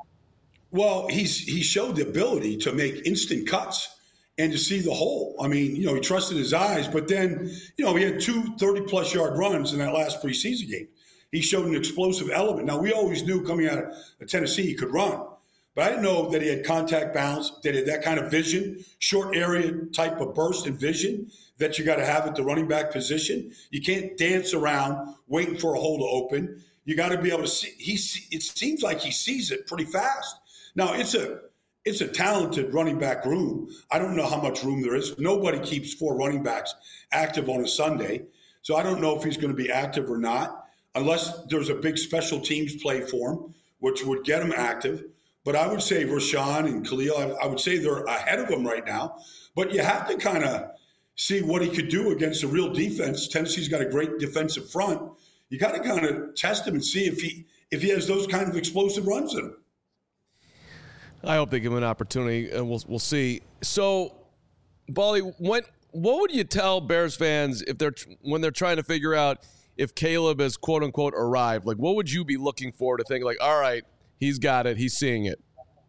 Well, he showed the ability to make instant cuts and to see the hole. I mean, he trusted his eyes, but then, he had 2 30-plus yard runs in that last preseason game. He showed an explosive element. Now, we always knew coming out of Tennessee he could run, but I didn't know that he had contact balance, that he had that kind of vision, short area type of burst and vision that you got to have at the running back position. You can't dance around waiting for a hole to open. you got to be able to see. It seems like he sees it pretty fast. Now it's a talented running back room. I don't know how much room there is. Nobody keeps 4 running backs active on a Sunday, so I don't know if he's going to be active or not, unless there's a big special teams play for him, which would get him active. But I would say Rashawn and Khalil, I would say they're ahead of him right now. But you have to kind of see what he could do against a real defense. Tennessee's got a great defensive front. You got to kind of test him and see if he has those kind of explosive runs in him. I hope they give him an opportunity, and we'll see. So, Bally, what would you tell Bears fans when they're trying to figure out if Caleb has quote unquote arrived? Like, what would you be looking for to think like, all right, he's got it, he's seeing it?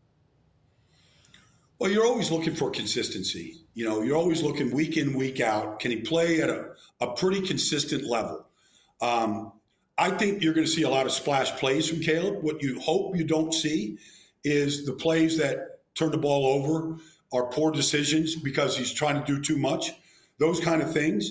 Well, you're always looking for consistency. You're always looking week in, week out. Can he play at a pretty consistent level? I think you're going to see a lot of splash plays from Caleb. What you hope you don't see is the plays that turn the ball over are poor decisions because he's trying to do too much, those kind of things.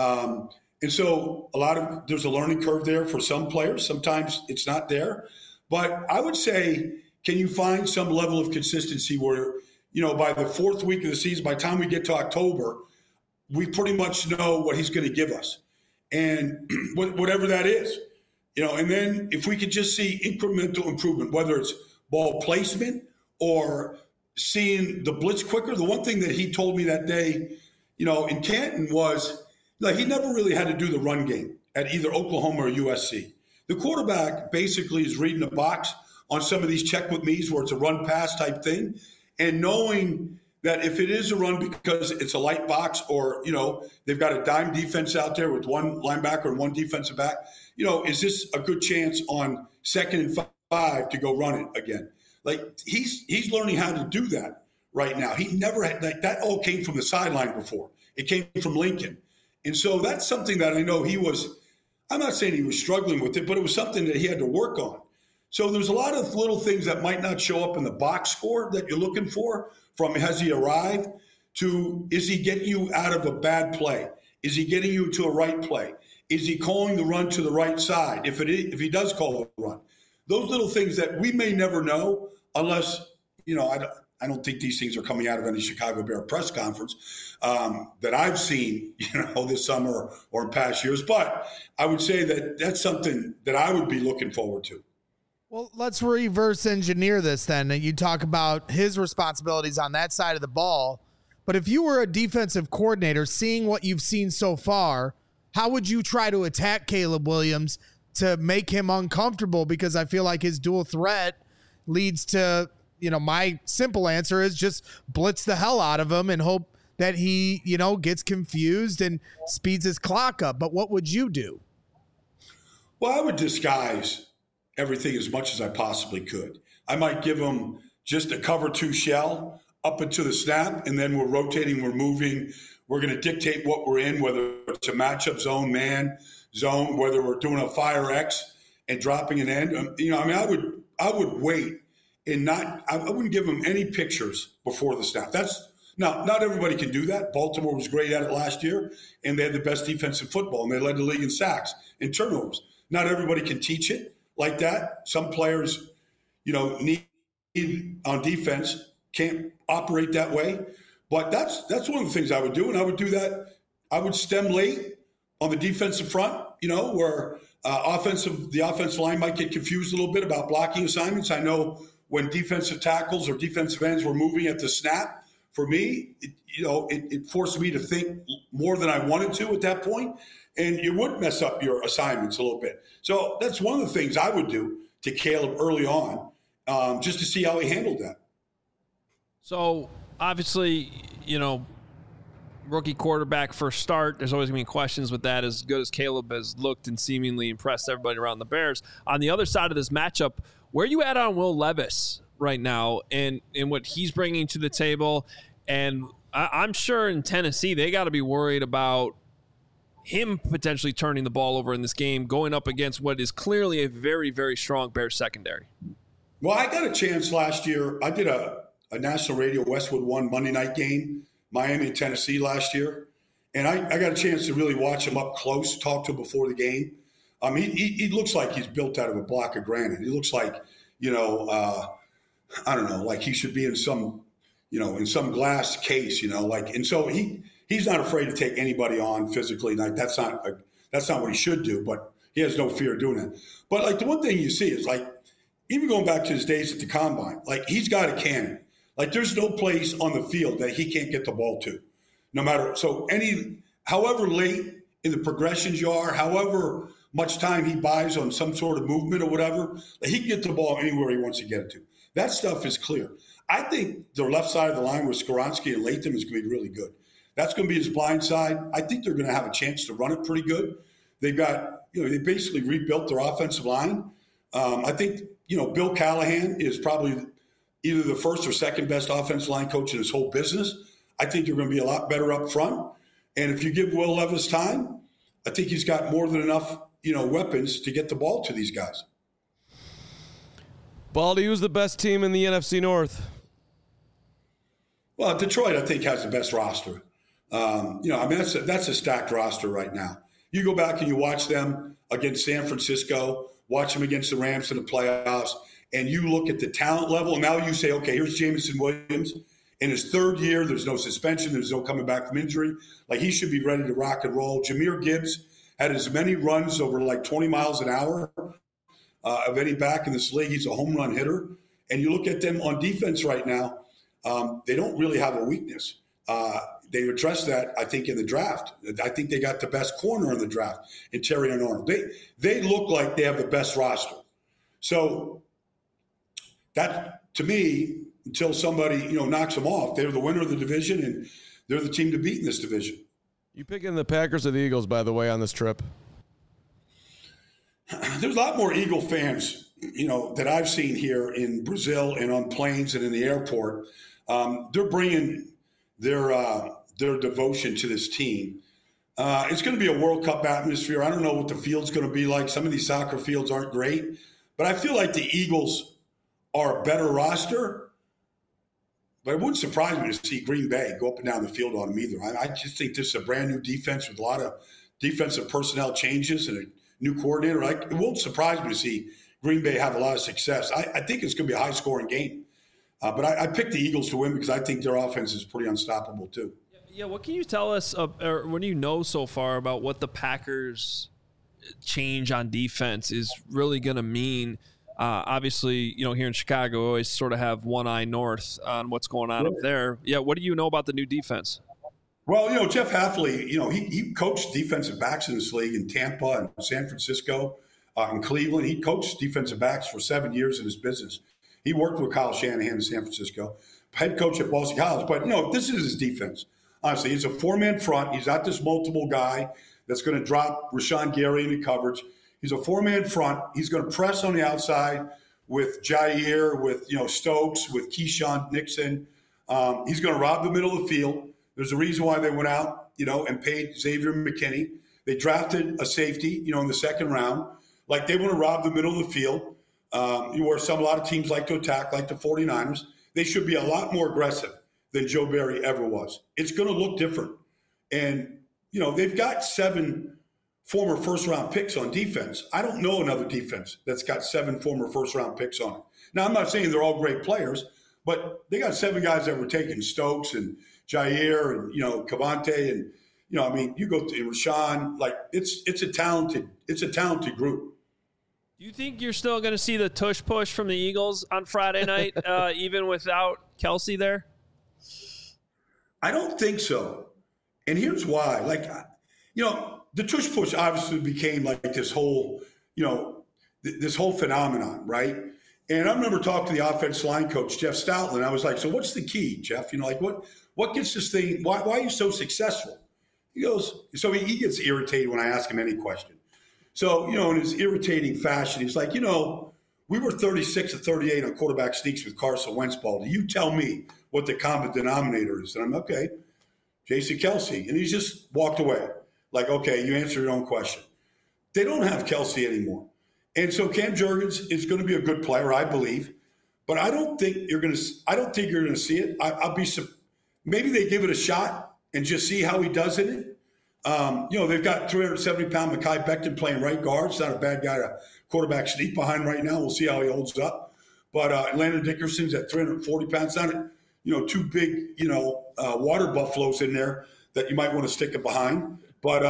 And so there's a learning curve there for some players. Sometimes it's not there. But I would say, can you find some level of consistency where, by the 4th week of the season, by the time we get to October, we pretty much know what he's going to give us. And whatever that is, and then if we could just see incremental improvement, whether it's ball placement or seeing the blitz quicker. The one thing that he told me that day, in Canton was he never really had to do the run game at either Oklahoma or USC. The quarterback basically is reading the box on some of these check with me's where it's a run pass type thing, and knowing that if it is a run because it's a light box or, they've got a dime defense out there with one linebacker and one defensive back, is this a good chance on 2nd and 5 to go run it again? Like he's learning how to do that right now. He never had that all came from the sideline before. It came from Lincoln. And so that's something that I know I'm not saying he was struggling with it, but it was something that he had to work on. So there's a lot of little things that might not show up in the box score that you're looking for, from has he arrived to is he getting you out of a bad play? Is he getting you to a right play? Is he calling the run to the right side? If he does call the run, those little things that we may never know unless, I don't think these things are coming out of any Chicago Bear press conference that I've seen, this summer or in past years. But I would say that that's something that I would be looking forward to. Well, let's reverse engineer this then. You talk about his responsibilities on that side of the ball. But if you were a defensive coordinator, seeing what you've seen so far, how would you try to attack Caleb Williams to make him uncomfortable? Because I feel like his dual threat leads to, my simple answer is just blitz the hell out of him and hope that he, gets confused and speeds his clock up. But what would you do? Well, I would disguise everything as much as I possibly could. I might give him just a cover 2 shell up into the snap, and then we're rotating, we're moving. We're going to dictate what we're in, whether it's a matchup zone, man zone, whether we're doing a fire X and dropping an end. I would wait and I wouldn't give him any pictures before the snap. Not everybody can do that. Baltimore was great at it last year, and they had the best defense in football, and they led the league in sacks and turnovers. Not everybody can teach it like that. Some players, need on defense can't operate that way. But that's one of the things I would do, and I would do that. I would stem late on the defensive front, where the offensive line might get confused a little bit about blocking assignments. I know when defensive tackles or defensive ends were moving at the snap, for me, it forced me to think more than I wanted to at that point, and you would mess up your assignments a little bit. So that's one of the things I would do to Caleb early on, just to see how he handled that. So obviously, rookie quarterback first start, there's always going to be questions with that. As good as Caleb has looked and seemingly impressed everybody around the Bears, on the other side of this matchup, where are you at on Will Levis right now and what he's bringing to the table? And I'm sure in Tennessee, they got to be worried about him potentially turning the ball over in this game, going up against what is clearly a very, very strong Bears secondary. Well, I got a chance last year. I did a national radio Westwood One Monday night game, Miami and Tennessee last year. And I got a chance to really watch him up close, talk to him before the game. He looks like he's built out of a block of granite. He looks like, I don't know, like he should be in some glass case, and so he's not afraid to take anybody on physically. Like that's not what he should do, but he has no fear of doing that. But like the one thing you see is like, even going back to his days at the combine, like he's got a cannon. Like there's no place on the field that he can't get the ball to, no matter. So however late in the progressions you are, however much time he buys on some sort of movement or whatever, like he can get the ball anywhere he wants to get it to. That stuff is clear. I think the left side of the line with Skoronski and Latham is going to be really good. That's going to be his blind side. I think they're going to have a chance to run it pretty good. They've got, they basically rebuilt their offensive line. I think, Bill Callahan is probably either the first or second best offensive line coach in this whole business. I think they're going to be a lot better up front. And if you give Will Levis time, I think he's got more than enough, weapons to get the ball to these guys. Baldy, who's the best team in the NFC North? Well, Detroit, I think, has the best roster. That's a stacked roster right now. You go back and you watch them against San Francisco, watch them against the Rams in the playoffs, and you look at the talent level. And now you say, okay, here's Jameson Williams. In his third year, there's no suspension. There's no coming back from injury. Like, he should be ready to rock and roll. Jahmyr Gibbs had as many runs over like 20 miles an hour of any back in this league. He's a home run hitter. And you look at them on defense right now, they don't really have a weakness. They addressed that, I think, in the draft. I think they got the best corner in the draft in Terry and Arnold. They look like they have the best roster. So that, to me, until somebody, knocks them off, they're the winner of the division, and they're the team to beat in this division. You picking the Packers or the Eagles, by the way, on this trip? There's a lot more Eagle fans, that I've seen here in Brazil and on planes and in the airport. They're bringing their devotion to this team. It's going to be a World Cup atmosphere. I don't know what the field's going to be like. Some of these soccer fields aren't great, but I feel like the Eagles are a better roster. But it wouldn't surprise me to see Green Bay go up and down the field on them either. I just think this is a brand new defense with a lot of defensive personnel changes and a new coordinator. It won't surprise me to see Green Bay have a lot of success. I think it's going to be a high-scoring game. But I picked the Eagles to win because I think their offense is pretty unstoppable too. Yeah, what can you tell us, or what do you know so far about what the Packers' change on defense is really going to mean? Obviously, here in Chicago, we always sort of have one eye north on what's going on up there. Yeah, what do you know about the new defense? Well, Jeff Hafley, he coached defensive backs in this league in Tampa and San Francisco, in Cleveland. He coached defensive backs for 7 years in his business. He worked with Kyle Shanahan in San Francisco, head coach at Boston College. But, this is his defense. Honestly, he's a four-man front. He's not this multiple guy that's going to drop Rashawn Gary into coverage. He's a four-man front. He's going to press on the outside with Jair, with Stokes, with Keyshawn Nixon. He's going to rob the middle of the field. There's a reason why they went out, and paid Xavier McKinney. They drafted a safety, in the second round. Like, they want to rob the middle of the field. Where a lot of teams like to attack, like the 49ers. They should be a lot more aggressive than Joe Barry ever was. It's going to look different. And, they've got 7 former first-round picks on defense. I don't know another defense that's got 7 former first-round picks on it. Now, I'm not saying they're all great players, but they got 7 guys that were taken, Stokes and Jair and, Cavante and, you go to Rashawn. Like, it's a talented group. Do you think you're still going to see the tush push from the Eagles on Friday night, even without Kelsey there? I don't think so. And here's why. The tush push obviously became like this whole, this whole phenomenon, right? And I remember talking to the offensive line coach, Jeff Stoutland. I was like, so what's the key, Jeff? What gets this thing? Why are you so successful? He goes, so he gets irritated when I ask him any question. So, in his irritating fashion, he's like, we were 36 of 38 on quarterback sneaks with Carson Wentz ball. Do you tell me what the common denominator is? And I'm okay, Jason Kelsey. And he just walked away. Like, okay, you answered your own question. They don't have Kelsey anymore. And so Cam Jurgens is going to be a good player, I believe. But I don't think you're going to see it. Maybe they give it a shot and just see how he does in it. They've got 370-pound Mekhi Becton playing right guard. It's not a bad guy to quarterback sneak behind right now. We'll see how he holds up. But Landon Dickerson's at 340 pounds. Not, two big, water buffaloes in there that you might want to stick it behind. But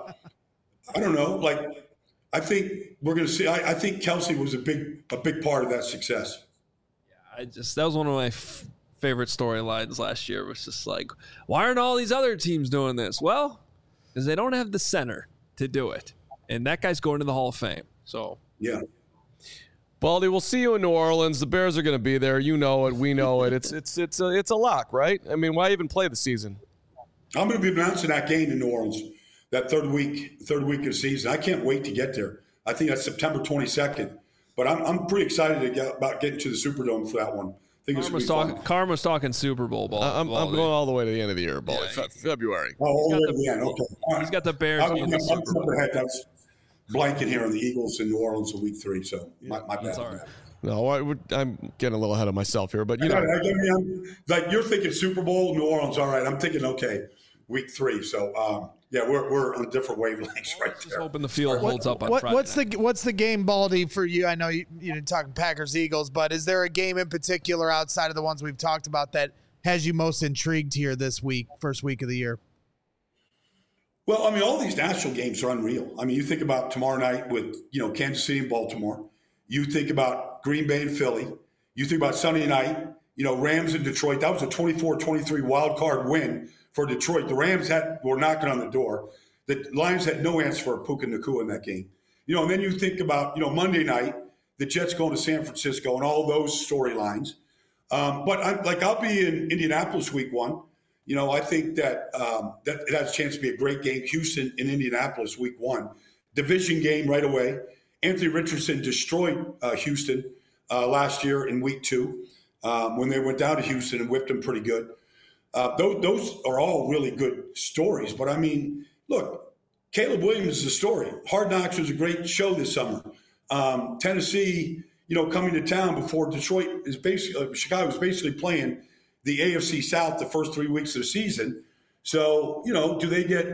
I don't know. Like, I think we're going to see. I think Kelce was a big part of that success. Yeah, that was one of my favorite storylines last year. It was just like, why aren't all these other teams doing this? Well, because they don't have the center to do it, and that guy's going to the Hall of Fame. So yeah. Baldy, we'll see you in New Orleans. The Bears are going to be there. You know it. We know it. It's a lock, right? I mean, why even play the season? I'm going to be announcing that game in New Orleans, that third week of the season. I can't wait to get there. I think that's September 22nd. But I'm pretty excited about getting to the Superdome for that one. I think it's going to be fun. Karma's talking Super Bowl. I'm going all the way to the end of the year, Baldy. Yeah, February. Oh, all the way to the end. Okay. He's got the Bears. I'm blanket here on the Eagles in New Orleans in week 3, so my bad. Right. No, I'm getting a little ahead of myself here, but like you're thinking Super Bowl, New Orleans. All right, I'm thinking week 3. So we're on different wavelengths right there. Hoping the field holds up on Friday. What's the game, Baldy, for you? I know you're talking Packers Eagles, but is there a game in particular outside of the ones we've talked about that has you most intrigued here this week, first week of the year? Well, I mean, all these national games are unreal. I mean, you think about tomorrow night with, Kansas City and Baltimore. You think about Green Bay and Philly. You think about Sunday night, Rams and Detroit. That was a 24-23 wild card win for Detroit. The Rams were knocking on the door. The Lions had no answer for Puka Nacua in that game. And then you think about, Monday night, the Jets going to San Francisco and all those storylines. But I'll be in Indianapolis week 1. I think that that has a chance to be a great game. Houston and Indianapolis week 1. Division game right away. Anthony Richardson destroyed Houston last year in week 2 when they went down to Houston and whipped them pretty good. Those are all really good stories. But, I mean, look, Caleb Williams is a story. Hard Knocks was a great show this summer. Tennessee, coming to town before Detroit is basically Chicago was basically playing the AFC South the first 3 weeks of the season. So, do they go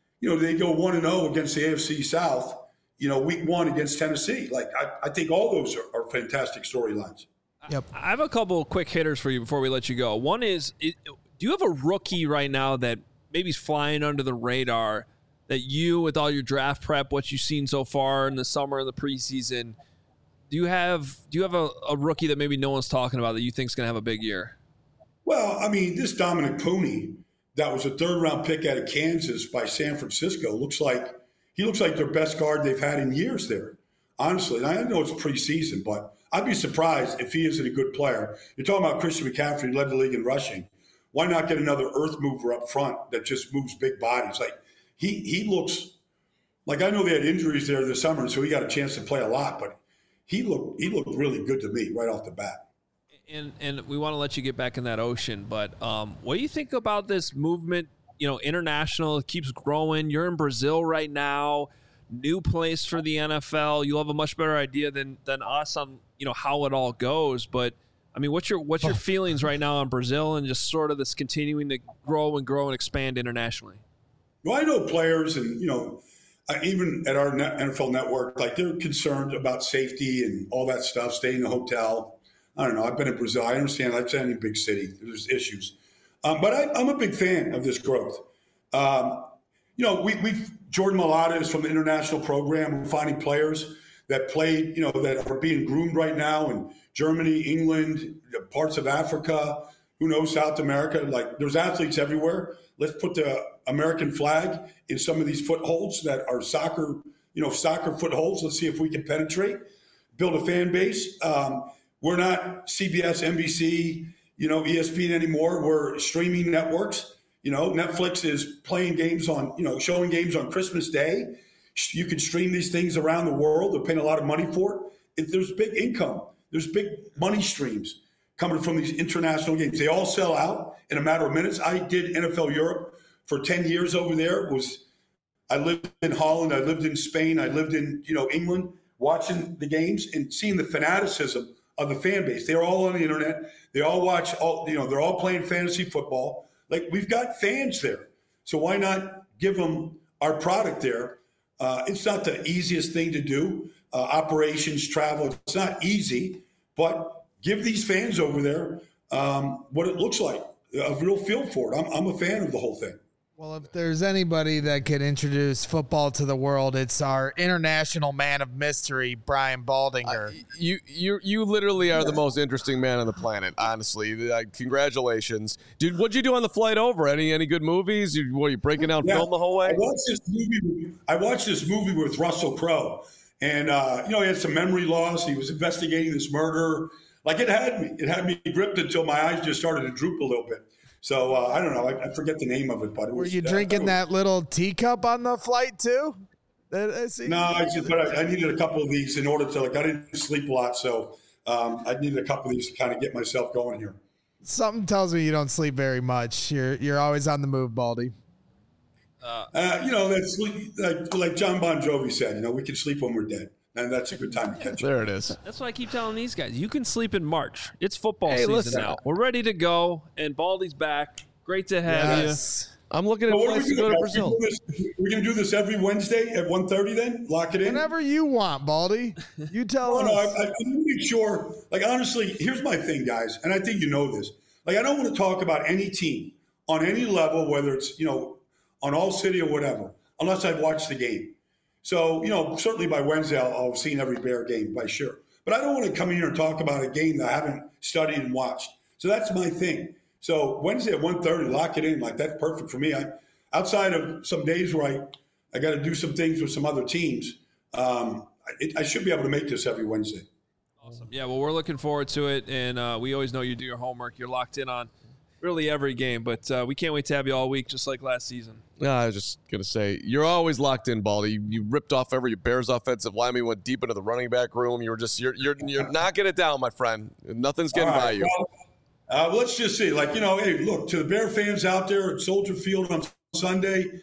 1-0 against the AFC South, week 1 against Tennessee? Like, I think all those are fantastic storylines. Yep. I have a couple of quick hitters for you before we let you go. One is, do you have a rookie right now that maybe is flying under the radar that you, with all your draft prep, what you've seen so far in the summer and the preseason, do you have a rookie that maybe no one's talking about that you think is going to have a big year? Well, I mean, this Dominic Pooney, that was a 3rd-round pick out of Kansas by San Francisco, looks like their best guard they've had in years there. Honestly, and I know it's preseason, but I'd be surprised if he isn't a good player. You're talking about Christian McCaffrey, who led the league in rushing. Why not get another earth mover up front that just moves big bodies? Like he looks like, I know they had injuries there this summer, so he got a chance to play a lot, but he looked really good to me right off the bat. And we want to let you get back in that ocean, but what do you think about this movement? International, it keeps growing. You're in Brazil right now, new place for the NFL. You'll have a much better idea than us on how it all goes. But I mean, what's your feelings right now on Brazil and just sort of this continuing to grow and expand internationally? Well, I know players, and even at our NFL network, like they're concerned about safety and all that stuff, staying in the hotel. I don't know. I've been in Brazil. I understand. I've been in a big city. There's issues. But I'm a big fan of this growth. Jordan Mailata is from the international program. We're finding players that played, that are being groomed right now in Germany, England, parts of Africa, who knows, South America. Like, there's athletes everywhere. Let's put the American flag in some of these footholds that are soccer footholds. Let's see if we can penetrate, build a fan base. We're not CBS, NBC, ESPN anymore. We're streaming networks. Netflix is playing games on, showing games on Christmas Day. You can stream these things around the world. They're paying a lot of money for it. There's big income. There's big money streams coming from these international games. They all sell out in a matter of minutes. I did NFL Europe for 10 years over there. I lived in Holland. I lived in Spain. I lived in, England, watching the games and seeing the fanaticism of the fan base. They're all on the internet. They all watch they're all playing fantasy football. Like, we've got fans there. So why not give them our product there. It's not the easiest thing to do. Operations, travel, it's not easy, but give these fans over there what it looks like, a real feel for it. I'm a fan of the whole thing. Well, if there's anybody that could introduce football to the world, it's our international man of mystery, Brian Baldinger. You literally are the most interesting man on the planet, honestly. Congratulations. Dude, what'd you do on the flight over? Any good movies? Were you breaking down film the whole way? I watched this movie with Russell Crowe, and he had some memory loss. He was investigating this murder. Like, it had me gripped until my eyes just started to droop a little bit. So I don't know. I forget the name of it, but were you drinking that little teacup on the flight too? No, I needed a couple of these in order to I didn't sleep a lot, so I needed a couple of these to kind of get myself going here. Something tells me you don't sleep very much. You're always on the move, Baldy. That's like John Bon Jovi said. We can sleep when we're dead. And that's a good time to catch up. There it is. That's what I keep telling these guys. You can sleep in March. It's football season now. We're ready to go, and Baldy's back. Great to have you. I'm looking at flights to go to Brazil. We're going to do this every Wednesday at 1:30 then? Lock it in? Whenever you want, Baldy. You tell us. No, I make sure. Honestly, here's my thing, guys, and I think you know this. I don't want to talk about any team on any level, whether it's, on All City or whatever, unless I've watched the game. So, certainly by Wednesday, I'll have seen every Bear game, by sure. But I don't want to come in here and talk about a game that I haven't studied and watched. So that's my thing. So Wednesday at 1:30, lock it in. That's perfect for me. Outside of some days where I got to do some things with some other teams, I should be able to make this every Wednesday. Awesome. Yeah, well, we're looking forward to it. And we always know you do your homework. You're locked in on really every game. But we can't wait to have you all week, just like last season. I was just going to say, you're always locked in, Baldy. You ripped off every Bears offensive lineman, went deep into the running back room. You're knocking it down, my friend. Nothing's getting by you. Well, let's just see. Hey, look, to the Bear fans out there at Soldier Field on Sunday,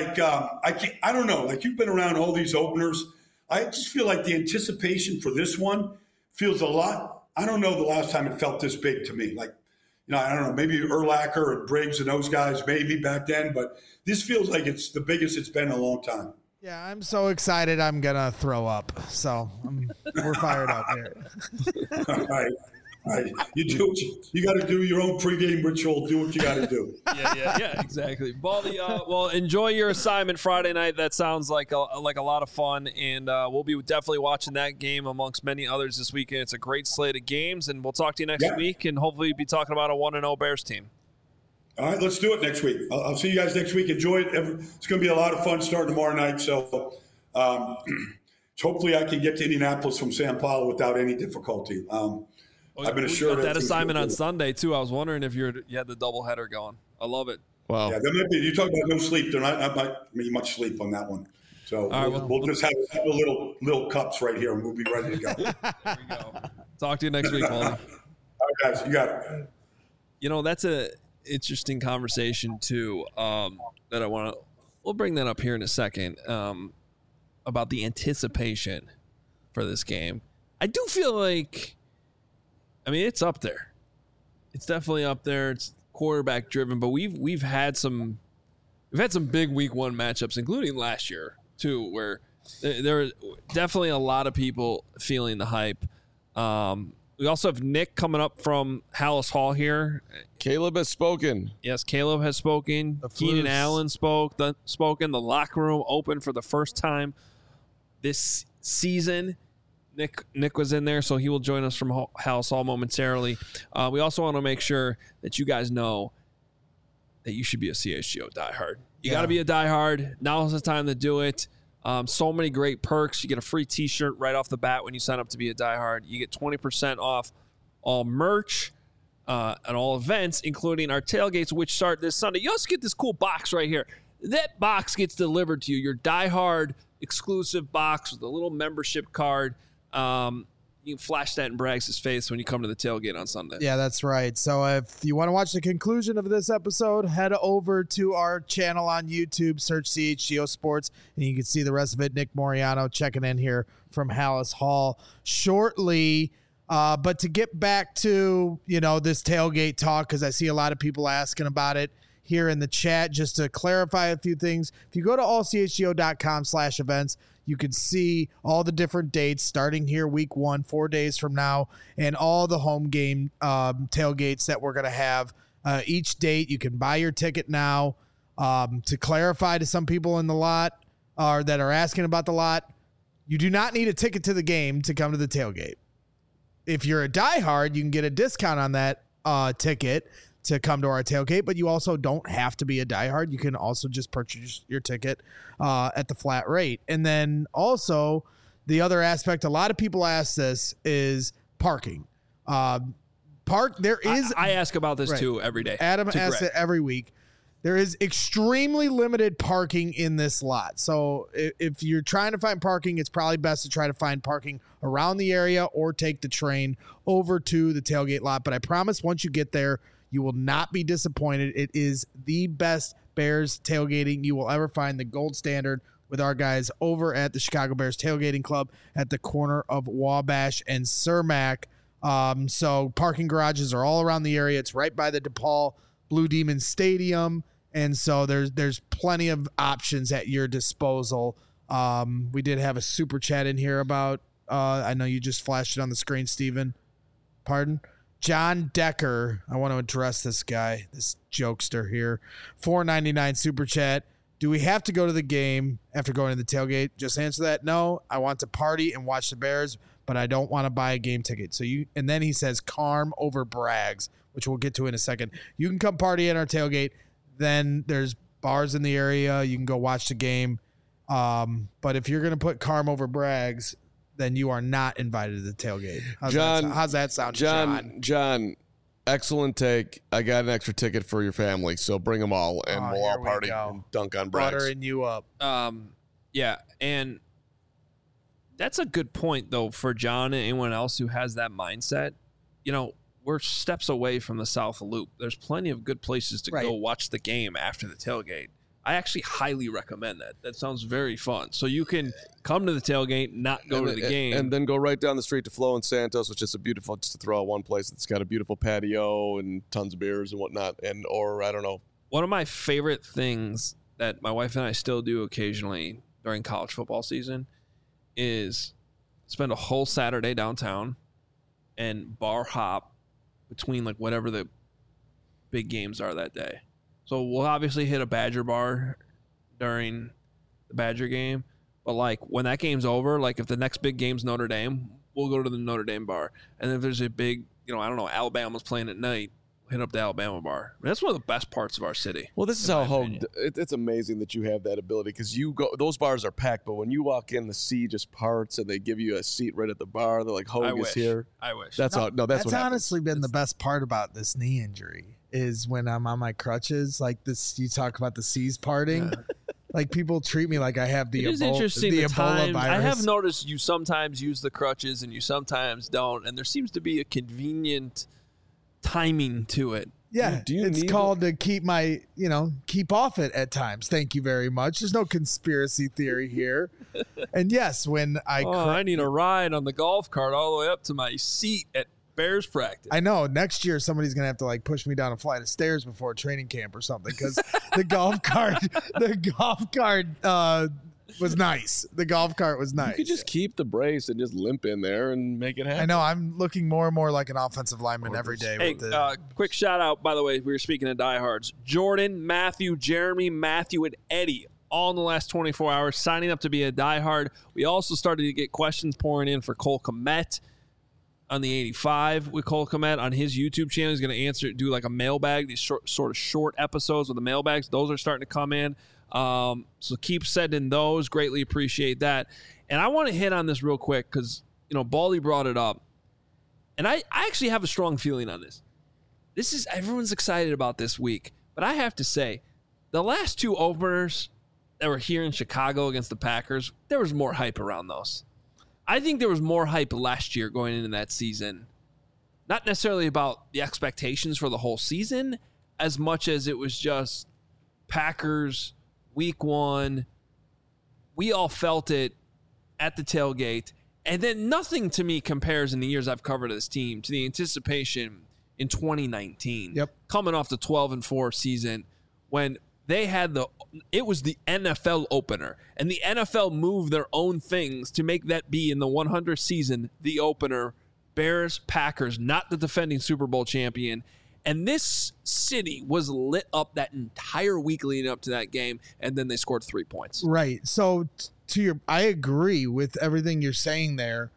I don't know. You've been around all these openers. I just feel like the anticipation for this one feels a lot. I don't know the last time it felt this big to me. I don't know, maybe Urlacher and Briggs and those guys maybe back then, but this feels like it's the biggest it's been in a long time. Yeah, I'm so excited I'm going to throw up. So we're fired up here. All right. You do you got to do your own pregame ritual. Do what you got to do. Yeah, exactly. Baldy, well, enjoy your assignment Friday night. That sounds like a lot of fun, and we'll be definitely watching that game amongst many others this weekend. It's a great slate of games, and we'll talk to you next week, and hopefully be talking about a 1-0 Bears team. All right, let's do it next week. I'll see you guys next week. Enjoy it. It's going to be a lot of fun starting tomorrow night. So hopefully I can get to Indianapolis from San Paulo without any difficulty. I've been assured that assignment on Sunday too. I was wondering if you had the doubleheader going. I love it. Wow. Yeah, there might be. You talk about no sleep. There might be much sleep on that one. So we'll just have a couple little cups right here, and we'll be ready to go. There we go. Talk to you next week, Baldy. All right, guys, you got it. That's a interesting conversation too. That I want to. We'll bring that up here in a second. About the anticipation for this game. I do feel like. It's up there. It's definitely up there. It's quarterback driven, but we've had some big week one matchups, including last year too, where there are definitely a lot of people feeling the hype. We also have Nick coming up from Hallis Hall here. Caleb has spoken. Yes, Caleb has spoken. Keenan Allen spoken. The locker room open for the first time this season. Nick was in there, so he will join us from Hallis Hall momentarily. We also want to make sure that you guys know that you should be a CHGO diehard. You got to be a diehard. Now's the time to do it. So many great perks. You get a free T-shirt right off the bat when you sign up to be a diehard. You get 20% off all merch and all events, including our tailgates, which start this Sunday. You also get this cool box right here. That box gets delivered to you, your diehard exclusive box with a little membership card. You can flash that in Braggs' face when you come to the tailgate on Sunday. Yeah, that's right. So if you want to watch the conclusion of this episode, head over to our channel on YouTube, search CHGO Sports, and you can see the rest of it. Nick Moriano checking in here from Hallis Hall shortly. But to get back to, this tailgate talk, because I see a lot of people asking about it here in the chat just to clarify a few things. If you go to allchgo.com/events, you can see all the different dates starting here week 1, 4 days from now, and all the home game tailgates that we're going to have. Each date, you can buy your ticket now. To clarify to some people in the lot or that are asking about the lot, you do not need a ticket to the game to come to the tailgate. If you're a diehard, you can get a discount on that ticket to come to our tailgate, but you also don't have to be a diehard. You can also just purchase your ticket at the flat rate. And then also the other aspect, a lot of people ask this, is parking. I ask about this right. too every day. Adam asks it every week. There is extremely limited parking in this lot. So if you're trying to find parking, it's probably best to try to find parking around the area or take the train over to the tailgate lot. But I promise once you get there, you will not be disappointed. It is the best Bears tailgating you will ever find, the gold standard with our guys over at the Chicago Bears Tailgating Club at the corner of Wabash and Cermak. So parking garages are all around the area. It's right by the DePaul Blue Demon Stadium. And so there's plenty of options at your disposal. We did have a super chat in here about, I know you just flashed it on the screen, Steven. Pardon? John Decker. I want to address this guy, this jokester here. $4.99 super chat. Do we have to go to the game after going to the tailgate? Just answer that. No, I want to party and watch the Bears, but I don't want to buy a game ticket. And then he says Carm over Braggs, which we'll get to in a second. You can come party at our tailgate. Then there's bars in the area. You can go watch the game. But if you're going to put Carm over Braggs, then you are not invited to the tailgate. How's that sound, John, excellent take. I got an extra ticket for your family, so bring them all, and we'll all party and dunk on Braggs. Buttering you up. Yeah, and that's a good point, though, for John and anyone else who has that mindset. You know, we're steps away from the South Loop. There's plenty of good places to go watch the game after the tailgate. I actually highly recommend that. That sounds very fun. So you can come to the tailgate, not go to the game. And then go right down the street to Flo and Santos, which is just to throw out one place that's got a beautiful patio and tons of beers and whatnot. Or I don't know. One of my favorite things that my wife and I still do occasionally during college football season is spend a whole Saturday downtown and bar hop between like whatever the big games are that day. So we'll obviously hit a Badger bar during the Badger game, but like when that game's over, like if the next big game's Notre Dame, we'll go to the Notre Dame bar. And if there's a big, I don't know, Alabama's playing at night, hit up the Alabama bar. I mean, that's one of the best parts of our city. Well, this is how it's amazing that you have that ability, because those bars are packed, but when you walk in, the sea just parts and they give you a seat right at the bar. They're like, Hogue is here. I wish. That's what honestly been the best part about this knee injury is when I'm on my crutches, like this, you talk about the seas parting. Yeah. Like people treat me like I have the Ebola virus. I have noticed you sometimes use the crutches and you sometimes don't, and there seems to be a convenient timing to it. Yeah, it's called to keep my, keep off it at times. Thank you very much. There's no conspiracy theory here. And yes, when I need a ride on the golf cart all the way up to my seat at Bears practice. I know next year somebody's gonna have to like push me down a flight of stairs before training camp or something, because the golf cart was nice. The golf cart was nice. You could just keep the brace and just limp in there and make it happen. I know. I'm looking more and more like an offensive lineman every day. Hey, quick shout out, by the way, we were speaking of diehards. Jordan, Matthew, Jeremy, Matthew, and Eddie, all in the last 24 hours, signing up to be a diehard. We also started to get questions pouring in for Cole Kmet on the 85 with Cole Kmet on his YouTube channel. He's going to do like a mailbag, these short episodes with the mailbags. Those are starting to come in. So keep sending those. Greatly appreciate that. And I want to hit on this real quick because, Baldy brought it up. And I actually have a strong feeling on this. Everyone's excited about this week. But I have to say, the last two openers that were here in Chicago against the Packers, there was more hype around those. I think there was more hype last year going into that season. Not necessarily about the expectations for the whole season, as much as it was just Packers, week one. We all felt it at the tailgate. And then nothing to me compares in the years I've covered this team to the anticipation in 2019. Yep. Coming off the 12-4 season when they had it was the NFL opener, and the NFL moved their own things to make that be in the 100th season, the opener, Bears, Packers, not the defending Super Bowl champion. And this city was lit up that entire week leading up to that game, and then they scored 3 points. Right. So I agree with everything you're saying there.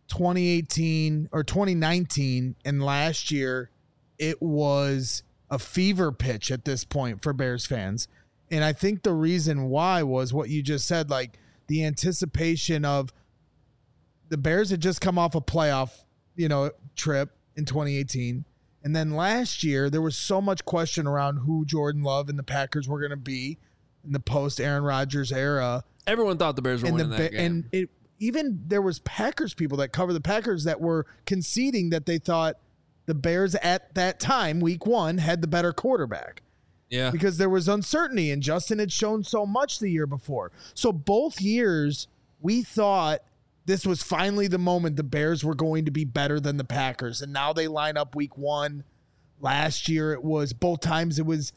2018 or 2019 and last year, it was a fever pitch at this point for Bears fans. And I think the reason why was what you just said, like the anticipation of the Bears had just come off a playoff, trip in 2018. And then last year, there was so much question around who Jordan Love and the Packers were going to be in the post-Aaron Rodgers era. Everyone thought the Bears were winning that game. And even there was Packers people that cover the Packers that were conceding that they thought the Bears at that time, week 1, had the better quarterback. Yeah. Because there was uncertainty, and Justin had shown so much the year before. So both years, we thought this was finally the moment the Bears were going to be better than the Packers. And now they line up week 1. Last year, both times it was,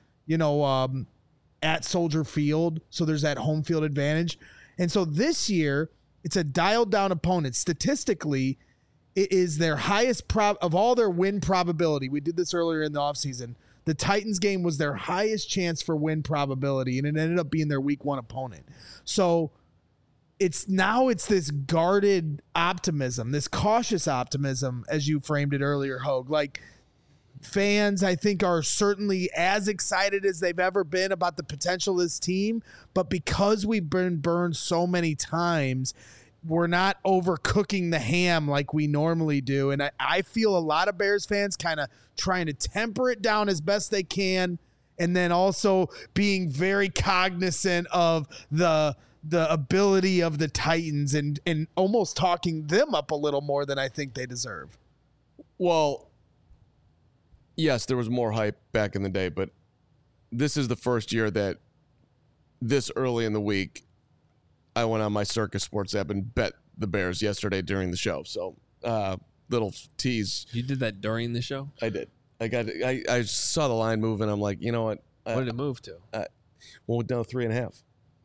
at Soldier Field. So there's that home field advantage. And so this year, it's a dialed down opponent. Statistically, it is their highest of all their win probability. We did this earlier in the offseason. The Titans game was their highest chance for win probability, and it ended up being their week 1 opponent. So it's this guarded optimism, this cautious optimism, as you framed it earlier, Hogue. Like, fans, I think, are certainly as excited as they've ever been about the potential of this team, but because we've been burned so many times, we're not overcooking the ham like we normally do. And I feel a lot of Bears fans kind of trying to temper it down as best they can, and then also being very cognizant of the ability of the Titans and almost talking them up a little more than I think they deserve. Well, yes, there was more hype back in the day, but this is the first year that this early in the week, I went on my Circus Sports app and bet the Bears yesterday during the show. So, little tease. You did that during the show? I did. I saw the line move, and I'm like, you know what? What did it move to? Well, down 3.5.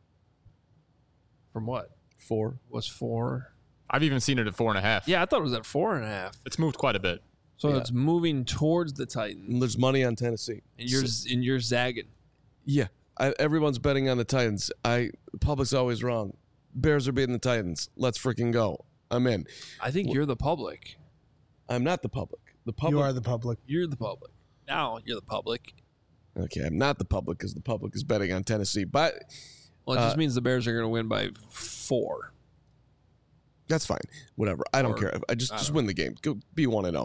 From what? 4. Was 4? I've even seen it at 4.5. Yeah, I thought it was at 4.5. It's moved quite a bit. So it's moving towards the Titans. And there's money on Tennessee. And you're zagging. Yeah. Everyone's betting on the Titans. The public's always wrong. Bears are beating the Titans. Let's freaking go. I'm in. I think you're the public. I'm not the public. The public. You are the public. You're the public. Now you're the public. Okay, I'm not the public because the public is betting on Tennessee. But Well, it just means the Bears are going to win by 4. That's fine. Whatever. I don't care. I just win the game. Go be 1-0.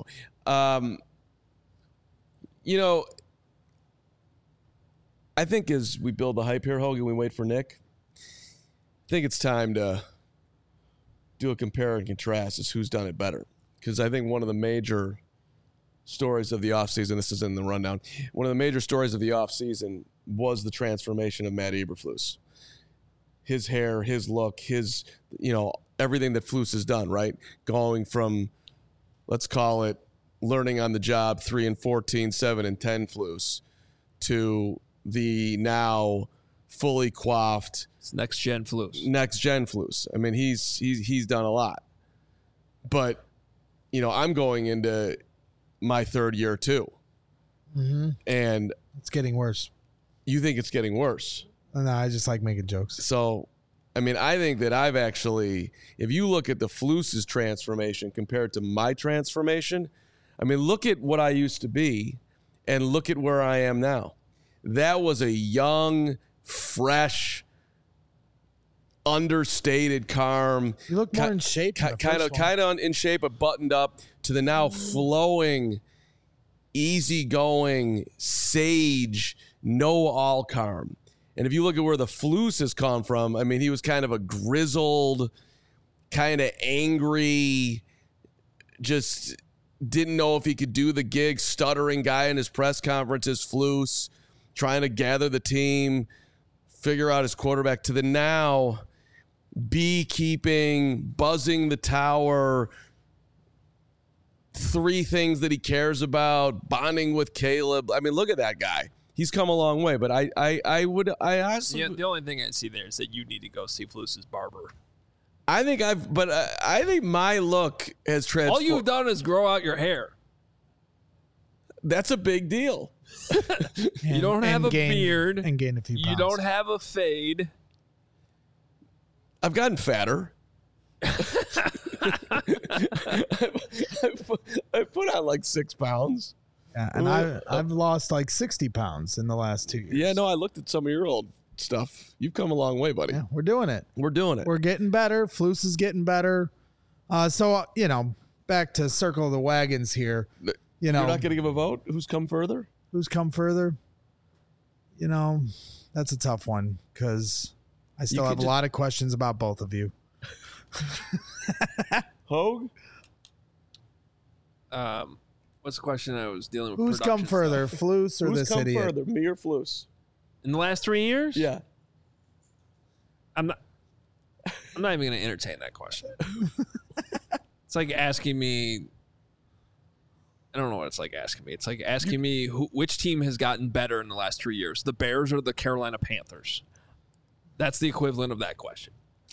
I think as we build the hype here, Hogan, we wait for Nick. I think it's time to do a compare and contrast as who's done it better. Because I think one of the major stories of the offseason, this is in the rundown, one of the major stories of the offseason was the transformation of Matt Eberflus. His hair, his look, his, everything that Flus has done, right? Going from, let's call it, learning on the job 3-14, 7-10 Flus to the now fully coiffed It's next gen Flus. I mean, he's done a lot. But, I'm going into my 3rd year too. Mm-hmm. And it's getting worse. You think it's getting worse? No, I just like making jokes. So, I mean, I think that I've actually, if you look at the Flus's transformation compared to my transformation, I mean, look at what I used to be and look at where I am now. That was a young, fresh, understated, calm. You look more in shape. Kind of in shape, but buttoned up, to the now flowing, easygoing, sage, know-all calm. And if you look at where the Flus has come from, I mean, he was kind of a grizzled, kind of angry, just didn't know if he could do the gig, stuttering guy in his press conferences, Flus, trying to gather the team, figure out his quarterback, to the now beekeeping, buzzing the tower, 3 things that he cares about, bonding with Caleb. I mean, look at that guy. he's come a long way. But I honestly, Yeah, the only thing I see there is that you need to go see Flus's barber. I think my look has transformed. All you've done is grow out your hair. That's a big deal. You don't have a beard. And gain a few pounds. You don't have a fade. I've gotten fatter. I put on like 6 pounds. Yeah, and I've lost like 60 pounds in the last 2 years. Yeah, no, I looked at some of your old stuff. You've come a long way, buddy. Yeah, we're doing it. We're doing it. We're getting better. Flus is getting better. So, back to circle of the wagons here. You're not going to give a vote? Who's come further? Who's come further? That's a tough one because I still have a lot of questions about both of you. Hogue? What's the question I was dealing with? Who's come production further, stuff. Flus or Who's this come idiot? further, me or Flus? In the last 3 years? Yeah. I'm not even going to entertain that question. It's like asking me. I don't know what it's like asking me. It's like asking me which team has gotten better in the last 3 years, the Bears or the Carolina Panthers. That's the equivalent of that question.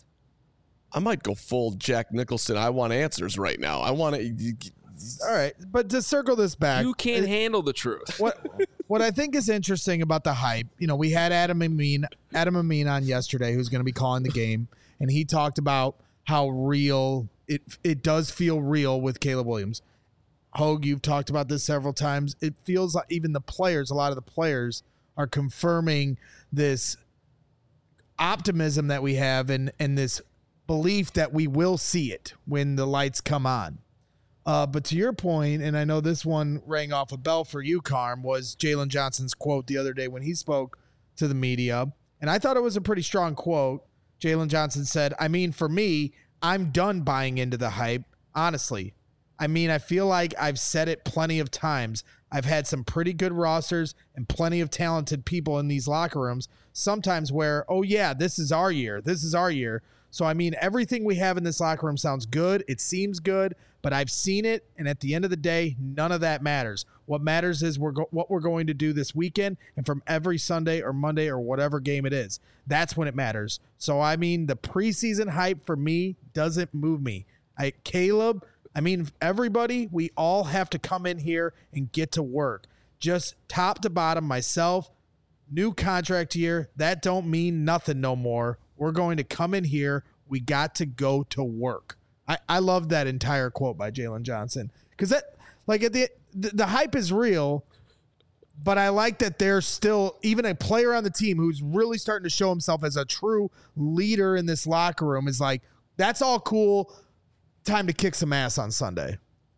I might go full Jack Nicholson. I want answers right now. I want to. All right, but to circle this back, You can't handle the truth. what I think is interesting about the hype, we had Adam Amin on yesterday, who's going to be calling the game, and he talked about how real it does feel real with Caleb Williams. Hogue, you've talked about this several times. It feels like even a lot of the players are confirming this optimism that we have and this belief that we will see it when the lights come on. But to your point, and I know this one rang off a bell for you, Carm, was Jalen Johnson's quote the other day when he spoke to the media. And I thought it was a pretty strong quote. Jalen Johnson said, for me, I'm done buying into the hype, honestly. I feel like I've said it plenty of times. I've had some pretty good rosters and plenty of talented people in these locker rooms, sometimes where, oh, yeah, this is our year. This is our year. So, everything we have in this locker room sounds good. It seems good, but I've seen it. And at the end of the day, none of that matters. What matters is what we're going to do this weekend and from every Sunday or Monday or whatever game it is. That's when it matters. So, the preseason hype for me doesn't move me. Caleb, everybody, we all have to come in here and get to work. Just top to bottom, myself, new contract year, that don't mean nothing no more. We're going to come in here. We got to go to work. I love that entire quote by Jalen Johnson because that, like, at the hype is real, but I like that there's still even a player on the team who's really starting to show himself as a true leader in this locker room is like, that's all cool. Time to kick some ass on Sunday.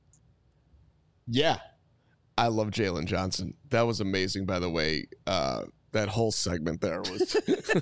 Yeah. I love Jalen Johnson. That was amazing, by the way. That whole segment there was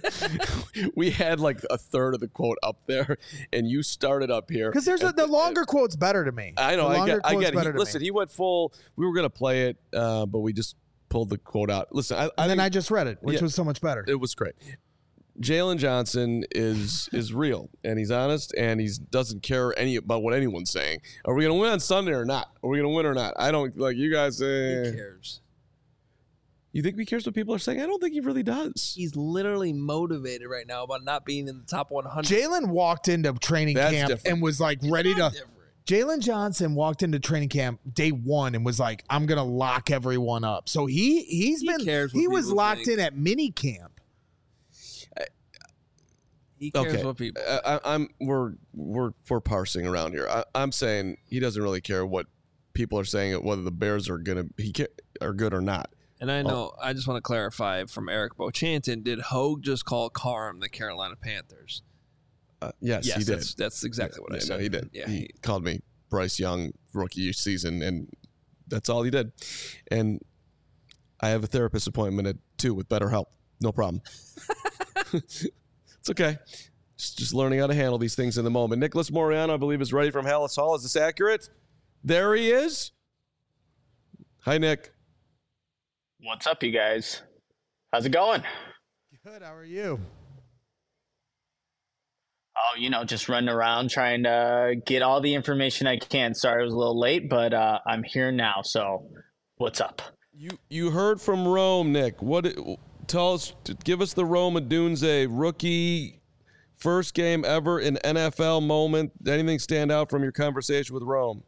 we had like a third of the quote up there, and you started up here because there's the longer quote's better to me. I know. I get it. Listen, he went full. We were gonna play it, but we just pulled the quote out. Listen, I just read it, which was so much better. It was great. Jalen Johnson is real, and he's honest, and he doesn't care about what anyone's saying. Are we gonna win on Sunday or not? Are we gonna win or not? I don't like you guys. Who cares? You think he cares what people are saying? I don't think he really does. He's literally motivated right now about not being in the top 100. Jalen walked into training camp and was like ready to. Jalen Johnson walked into training camp day one and was like, "I'm gonna lock everyone up." So he was locked in at mini camp. He cares what people. We're parsing around here. I'm saying he doesn't really care what people are saying, whether the Bears are are good or not. And I know, I just want to clarify from Eric Bochanton, did Hogue just call Carm the Carolina Panthers? Yes, he did. That's exactly what I said. No, he did. Yeah, he called me Bryce Young rookie season, and that's all he did. And I have a therapist appointment at 2 with BetterHelp. No problem. It's okay. Just learning how to handle these things in the moment. Nicholas Moriano, I believe, is ready from Hallis Hall. Is this accurate? There he is. Hi, Nick. What's up, you guys? How's it going? Good. How are you? Oh, just running around trying to get all the information I can. Sorry I was a little late, but I'm here now. So what's up? You heard from Rome, Nick. Tell us, give us the Rome Odunze rookie first game ever in NFL moment. Anything stand out from your conversation with Rome?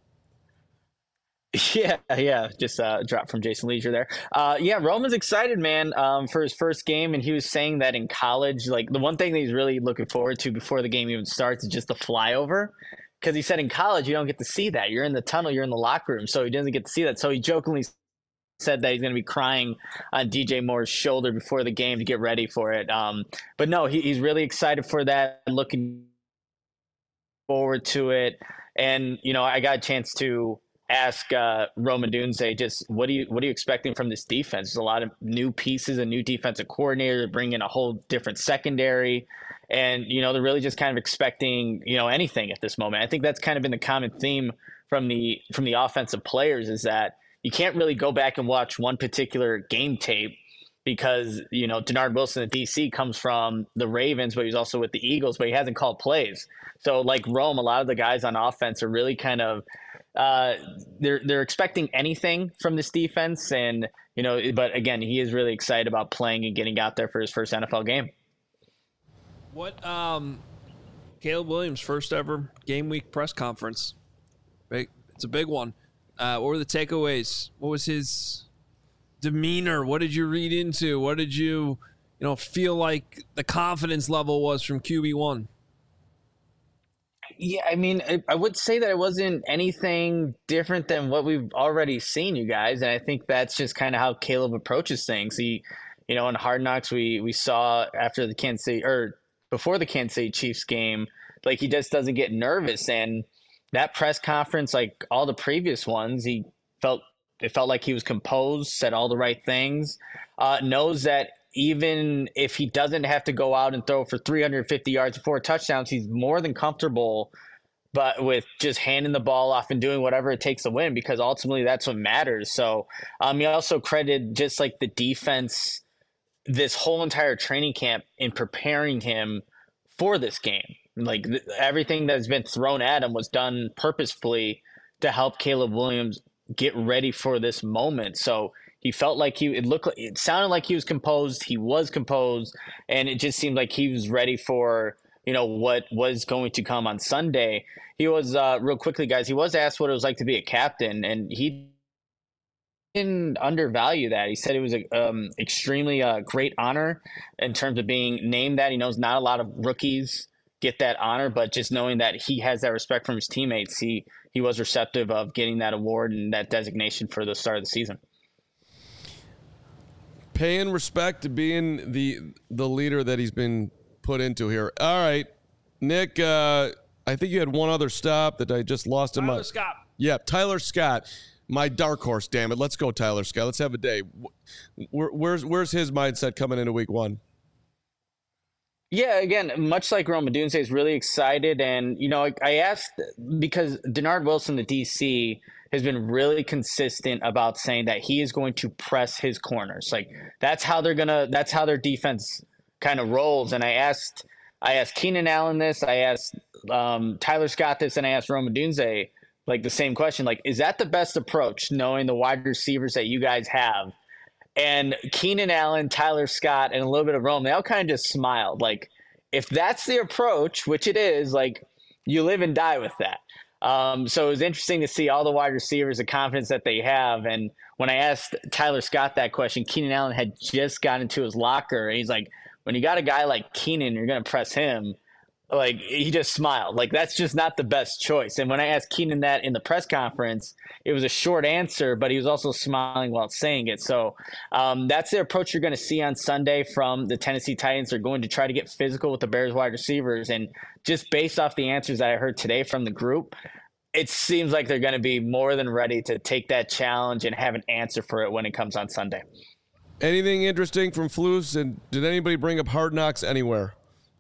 Yeah. Just dropped from Jason Leisure there. Rome is excited, man, for his first game, and he was saying that in college, like the one thing that he's really looking forward to before the game even starts is just the flyover. Because he said in college you don't get to see that. You're in the tunnel, you're in the locker room, so he doesn't get to see that. So he jokingly said that he's going to be crying on DJ Moore's shoulder before the game to get ready for it. But no, he's really excited for that, looking forward to it. And I got a chance to ask Rome Odunze just what are you expecting from this defense? There's a lot of new pieces, a new defensive coordinator, bringing a whole different secondary, and they're really just kind of expecting anything at this moment. I think that's kind of been the common theme from the offensive players, is that you can't really go back and watch one particular game tape because Denard Wilson at DC comes from the Ravens, but he's also with the Eagles, but he hasn't called plays. So like Rome, a lot of the guys on offense are really kind of they're expecting anything from this defense, and but again, he is really excited about playing and getting out there for his first NFL game. What Caleb Williams' first ever game week press conference? It's a big one. What were the takeaways? What was his demeanor? What did you read into? What did you feel like the confidence level was from QB1? Yeah, I mean, I would say that it wasn't anything different than what we've already seen, you guys. And I think that's just kind of how Caleb approaches things. He, in Hard Knocks, we saw after the Kansas City, or before the Kansas City Chiefs game, like he just doesn't get nervous. And that press conference, like all the previous ones, it felt like he was composed, said all the right things, knows that even if he doesn't have to go out and throw for 350 yards and 4 touchdowns, he's more than comfortable but with just handing the ball off and doing whatever it takes to win, because ultimately that's what matters. So he also credited just like the defense this whole entire training camp in preparing him for this game. Like everything that's been thrown at him was done purposefully to help Caleb Williams get ready for this moment. So he felt like it sounded like he was composed. He was composed, and it just seemed like he was ready for, what was going to come on Sunday. He was, real quickly, guys, he was asked what it was like to be a captain, and he didn't undervalue that. He said it was a extremely great honor in terms of being named that. He knows not a lot of rookies get that honor, but just knowing that he has that respect from his teammates, he was receptive of getting that award and that designation for the start of the season. Paying respect to being the leader that he's been put into here. All right, Nick, I think you had one other stop that I just lost in my... Tyler Scott. Yeah, Tyler Scott. My dark horse, damn it. Let's go, Tyler Scott. Let's have a day. Where's his mindset coming into week one? Yeah, again, much like Rome Odunze, is really excited. And, I asked because Denard Wilson, the DC, has been really consistent about saying that he is going to press his corners. Like that's how their defense kind of rolls. And I asked Keenan Allen this, I asked Tyler Scott this, and I asked Rome Odunze like the same question. Like, is that the best approach, knowing the wide receivers that you guys have? And Keenan Allen, Tyler Scott, and a little bit of Rome, they all kind of just smiled. Like, if that's the approach, which it is, like, you live and die with that. So it was interesting to see all the wide receivers, the confidence that they have. And when I asked Tyler Scott that question, Keenan Allen had just got into his locker. And he's like, when you got a guy like Keenan, you're going to press him. Like, he just smiled. Like, that's just not the best choice. And when I asked Keenan that in the press conference, it was a short answer, but he was also smiling while saying it. So that's the approach you're going to see on Sunday from the Tennessee Titans. They're going to try to get physical with the Bears wide receivers. And just based off the answers that I heard today from the group, it seems like they're going to be more than ready to take that challenge and have an answer for it when it comes on Sunday. Anything interesting from Flus? And did anybody bring up Hard Knocks anywhere?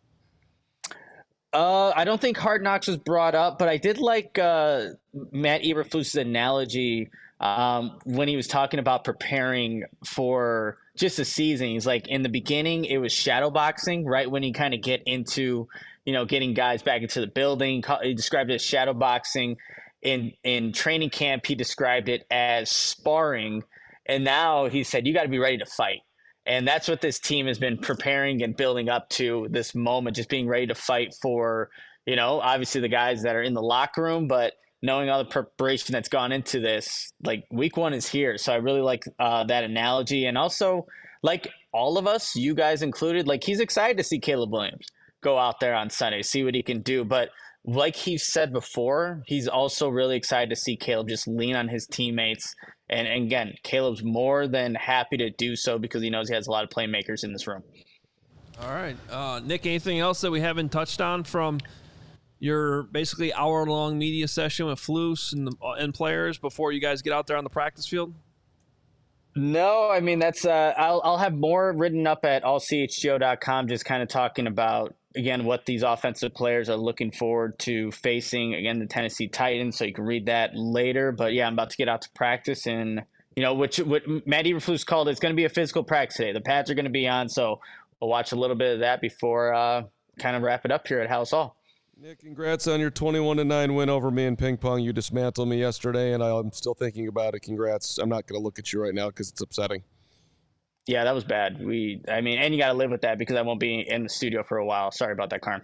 I don't think Hard Knocks was brought up, but I did like Matt Eberflus's analogy when he was talking about preparing for just the season. He's like, in the beginning, it was shadow boxing, right? When you kind of get into, getting guys back into the building. He described it as shadow boxing. In training camp, he described it as sparring. And now he said, you got to be ready to fight. And that's what this team has been preparing and building up to this moment, just being ready to fight for, obviously the guys that are in the locker room, but knowing all the preparation that's gone into this, like week 1 is here. So I really like that analogy. And also, like all of us, you guys included, like he's excited to see Caleb Williams go out there on Sunday, see what he can do. But like he said before, he's also really excited to see Caleb just lean on his teammates. And again, Caleb's more than happy to do so because he knows he has a lot of playmakers in this room. All right. Nick, anything else that we haven't touched on from your basically hour-long media session with Flus and players before you guys get out there on the practice field? No, I mean, that's I'll have more written up at allchgo.com, just kind of talking about, again, what these offensive players are looking forward to facing, again, the Tennessee Titans. So you can read that later. But yeah, I'm about to get out to practice, and what Matt Eberflus called, it's going to be a physical practice today. The pads are going to be on, so we'll watch a little bit of that before kind of wrap it up here at House Hall. Nick, congrats on your 21-9 win over me in ping pong. You dismantled me yesterday, and I'm still thinking about it. Congrats. I'm not going to look at you right now because it's upsetting. Yeah, that was bad. And you got to live with that because I won't be in the studio for a while. Sorry about that, Karn.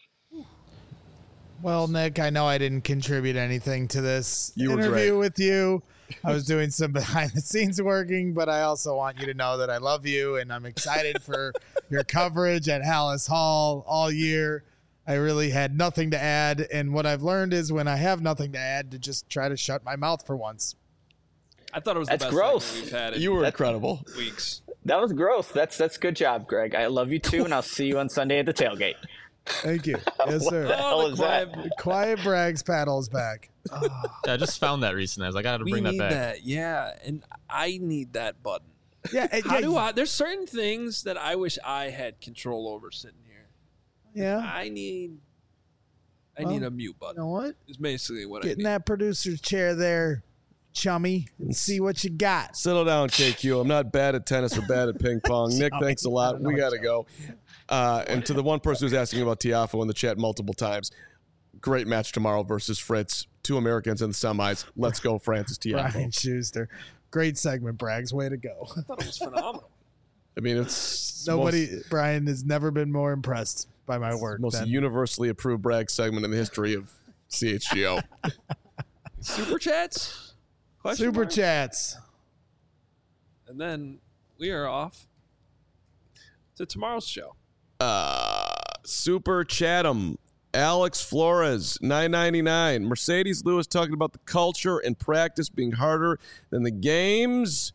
Well, Nick, I know I didn't contribute anything to this interview great. with you. I was doing some behind-the-scenes working, but I also want you to know that I love you, and I'm excited for your coverage at Hallis Hall all year. I really had nothing to add, and what I've learned is when I have nothing to add, to just try to shut my mouth for once. I thought it was That's the best gross. segment we've had in You were incredible. weeks. That was gross. That's good job, Greg. I love you too, and I'll see you on Sunday at the tailgate. Thank you. Yes, sir. hell Oh, is the that? Quiet Bragg's paddle is back. Yeah, I just found that recently. I was like, I got to We bring that need back. that. Yeah, and I need that button. Yeah, How do I? There's certain things that I wish I had control over sitting here. Yeah. I need a mute You button. know what? Is basically what Get I in need. that producer's chair there, chummy, and see what you got. Settle down, KQ. I'm not bad at tennis or bad at ping pong. Nick, thanks a lot. We got to go. And to the one person who's asking about Tiafoe in the chat multiple times, great match tomorrow versus Fritz. 2 Americans in the semis. Let's go, Francis Brian Tiafoe. Schuster. Great segment, Braggs. Way to go. I thought it was phenomenal. I mean, it's Brian has never been more impressed by my work. most than- universally approved brag segment in the history of CHGO. Super chats? Question Super mark? chats. And then we are off to tomorrow's show. Super Chatham, Alex Flores, $9.99. Mercedes Lewis talking about the culture and practice being harder than the games.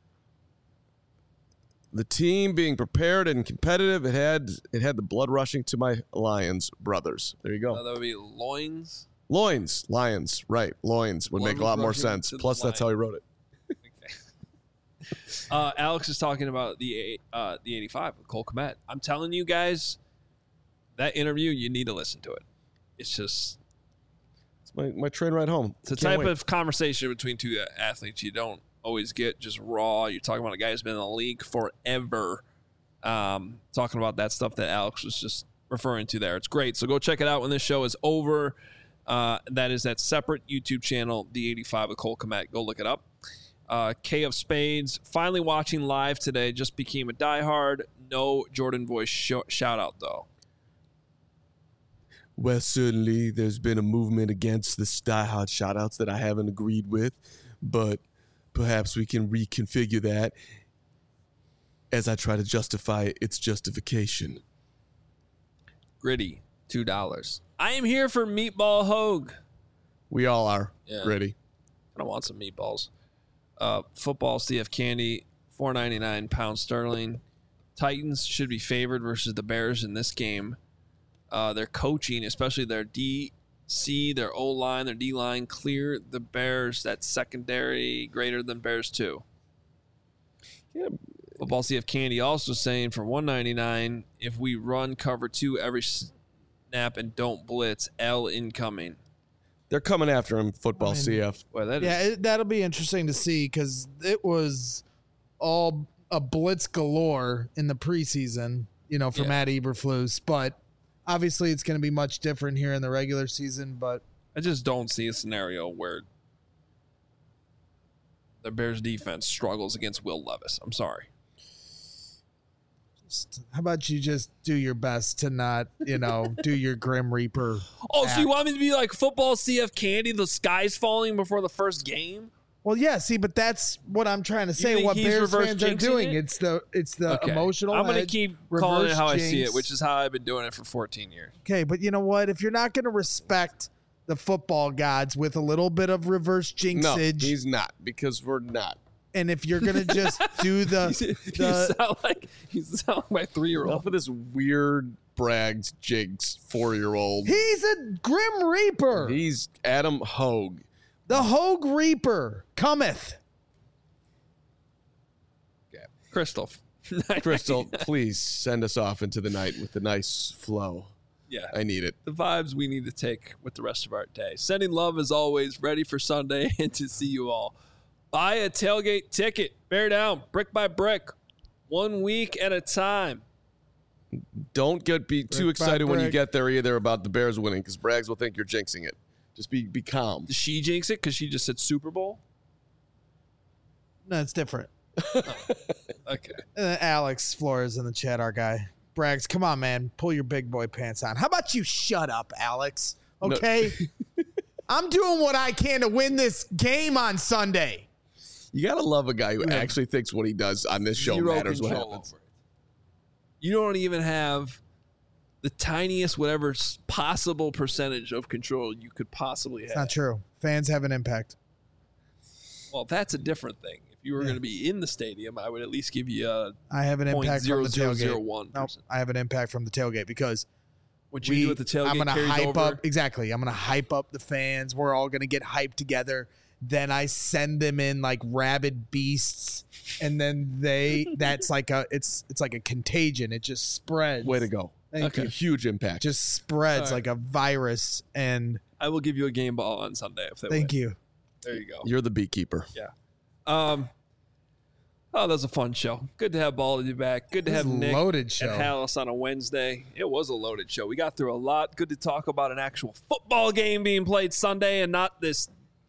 The team being prepared and competitive. It had the blood rushing to my Lions brothers. There you go. That would be loins. Loins, Lions, right? Loins would Blood make a lot was more rushing sense. to the Plus, that's how he wrote it. Alex is talking about the 85 with Cole Kmet. I'm telling you guys, that interview, you need to listen to it. It's just It's my train ride home. it's a Can't type wait. of conversation between two athletes you don't always get just raw. You're talking about a guy who's been in the league forever. Talking about that stuff that Alex was just referring to there. It's great. So go check it out when this show is over. That is that separate YouTube channel, The 85 with Cole Kmet. Go look it up. K of Spades, finally watching live today. Just became a diehard. No Jordan voice shout out, though. Well, certainly there's been a movement against the diehard shoutouts that I haven't agreed with, but perhaps we can reconfigure that as I try to justify its justification. Gritty, $2. I am here for Meatball Hogue. We all are. Yeah. Ready. I want some meatballs. Football, CF Candy, $4.99 pound sterling. Titans should be favored versus the Bears in this game. Their coaching, especially their DC, their O-line, their D-line, clear the Bears. That secondary greater than Bears 2. Yeah. Football CF Candy also saying for $1.99, if we run cover 2 every snap and don't blitz, L incoming. They're coming after him, football CF. Well, that is Yeah, that'll be interesting to see because it was all a blitz galore in the preseason, for Yeah. Matt Eberflus. But obviously, it's going to be much different here in the regular season. But I just don't see a scenario where the Bears defense struggles against Will Levis. I'm sorry. How about you just do your best to not, do your Grim Reaper? Oh, so you want me to be like football CF Candy, the sky's falling before the first game? Well, yeah, see, but that's what I'm trying to say. think What he's Bears reverse fans are jinxing doing. it? It's the Okay. emotional. I'm going to edge, keep calling it reverse how I see jinx. it, which is how I've been doing it for 14 years. Okay, but you know what? If you're not going to respect the football gods with a little bit of reverse No, jinxage, he's not, because we're not. and if you're going to just do you sound like my 3-year-old. Enough of this weird bragged jigs 4-year-old. he's a Grim Reaper. He's Adam Hogue. The Hogue Reaper cometh. Crystal. Crystal, please send us off into the night with a nice flow. Yeah. I need it. The vibes we need to take with the rest of our day. Sending love as always, ready for Sunday and to see you all. Buy a tailgate ticket. Bear down, brick by brick, 1 week at a time. Don't be too Brick by excited when you brick. get there either about the Bears winning, because Braggs will think you're jinxing it. Just be calm. Does she jinx it because she just said Super Bowl? No, it's different. Okay. And then Alex Flores in the chat, our guy. Braggs, come on, man. Pull your big boy pants on. How about you shut up, Alex? Okay? I'm doing what I can to win this game on Sunday. You got to love a guy who actually thinks what he does on this show Zero matters what control happens. over it. You don't even have the tiniest whatever possible percentage of control you could possibly have. It's not true. Fans have an impact. Well, that's a different thing. If you were going to be in the stadium, I would at least give you a I have an impact from the tailgate. 0.0001%. Nope, I have an impact from the tailgate because What you do at the tailgate I'm gonna carries hype over. up exactly. I'm gonna hype up the fans. We're all gonna get hyped together. Then I send them in like rabid beasts, and then that's like it's like a contagion. It just spreads. Way to go. Thank you. Huge impact. Just spreads All right. like a virus. And I will give you a game ball on Sunday if they win. thank you. There you go. You're the beekeeper. Yeah. Oh, that was a fun show. Good to have Baldy back. Good to This have is a Nick loaded show. and Hallis on a Wednesday. It was a loaded show. We got through a lot. Good to talk about an actual football game being played Sunday and not this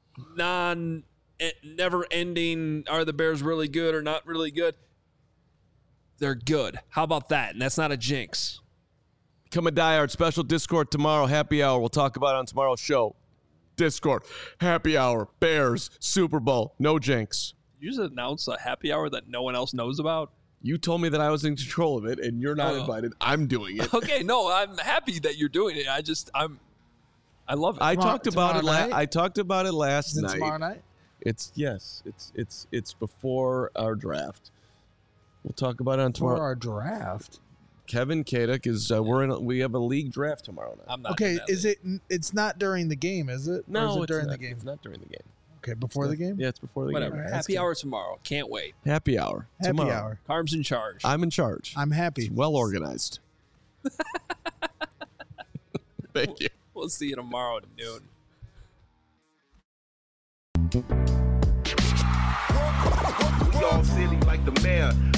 never-ending, are the Bears really good or not really good? They're good. How about that? And that's not a jinx. Become a diehard. Special Discord tomorrow. Happy hour. We'll talk about it on tomorrow's show. Discord. Happy hour. Bears. Super Bowl. No jinx. Did you just announce a happy hour that no one else knows about? You told me that I was in control of it, and you're not Oh. invited. I'm doing it. Okay, no, I'm happy that you're doing it. I love it. I Tomorrow- talked about it. tomorrow night? I talked about it last Is it night. tomorrow night? It's before our draft. We'll talk about it on For tomorrow. our draft. Kevin Kaduk is. We have a league draft tomorrow night. I'm not. Okay, in that is league. it? It's not during the game, is it? Or is it it's during not, the game? It's not during the game. Okay, before the game. Yeah, it's before the Whatever. game. Alright, that's Happy good. hour tomorrow. Can't wait. Happy hour. Happy tomorrow. hour. Carm's in charge. I'm in charge. I'm happy. It's well organized. Thank you. We'll see you tomorrow at noon. We all silly like the mayor.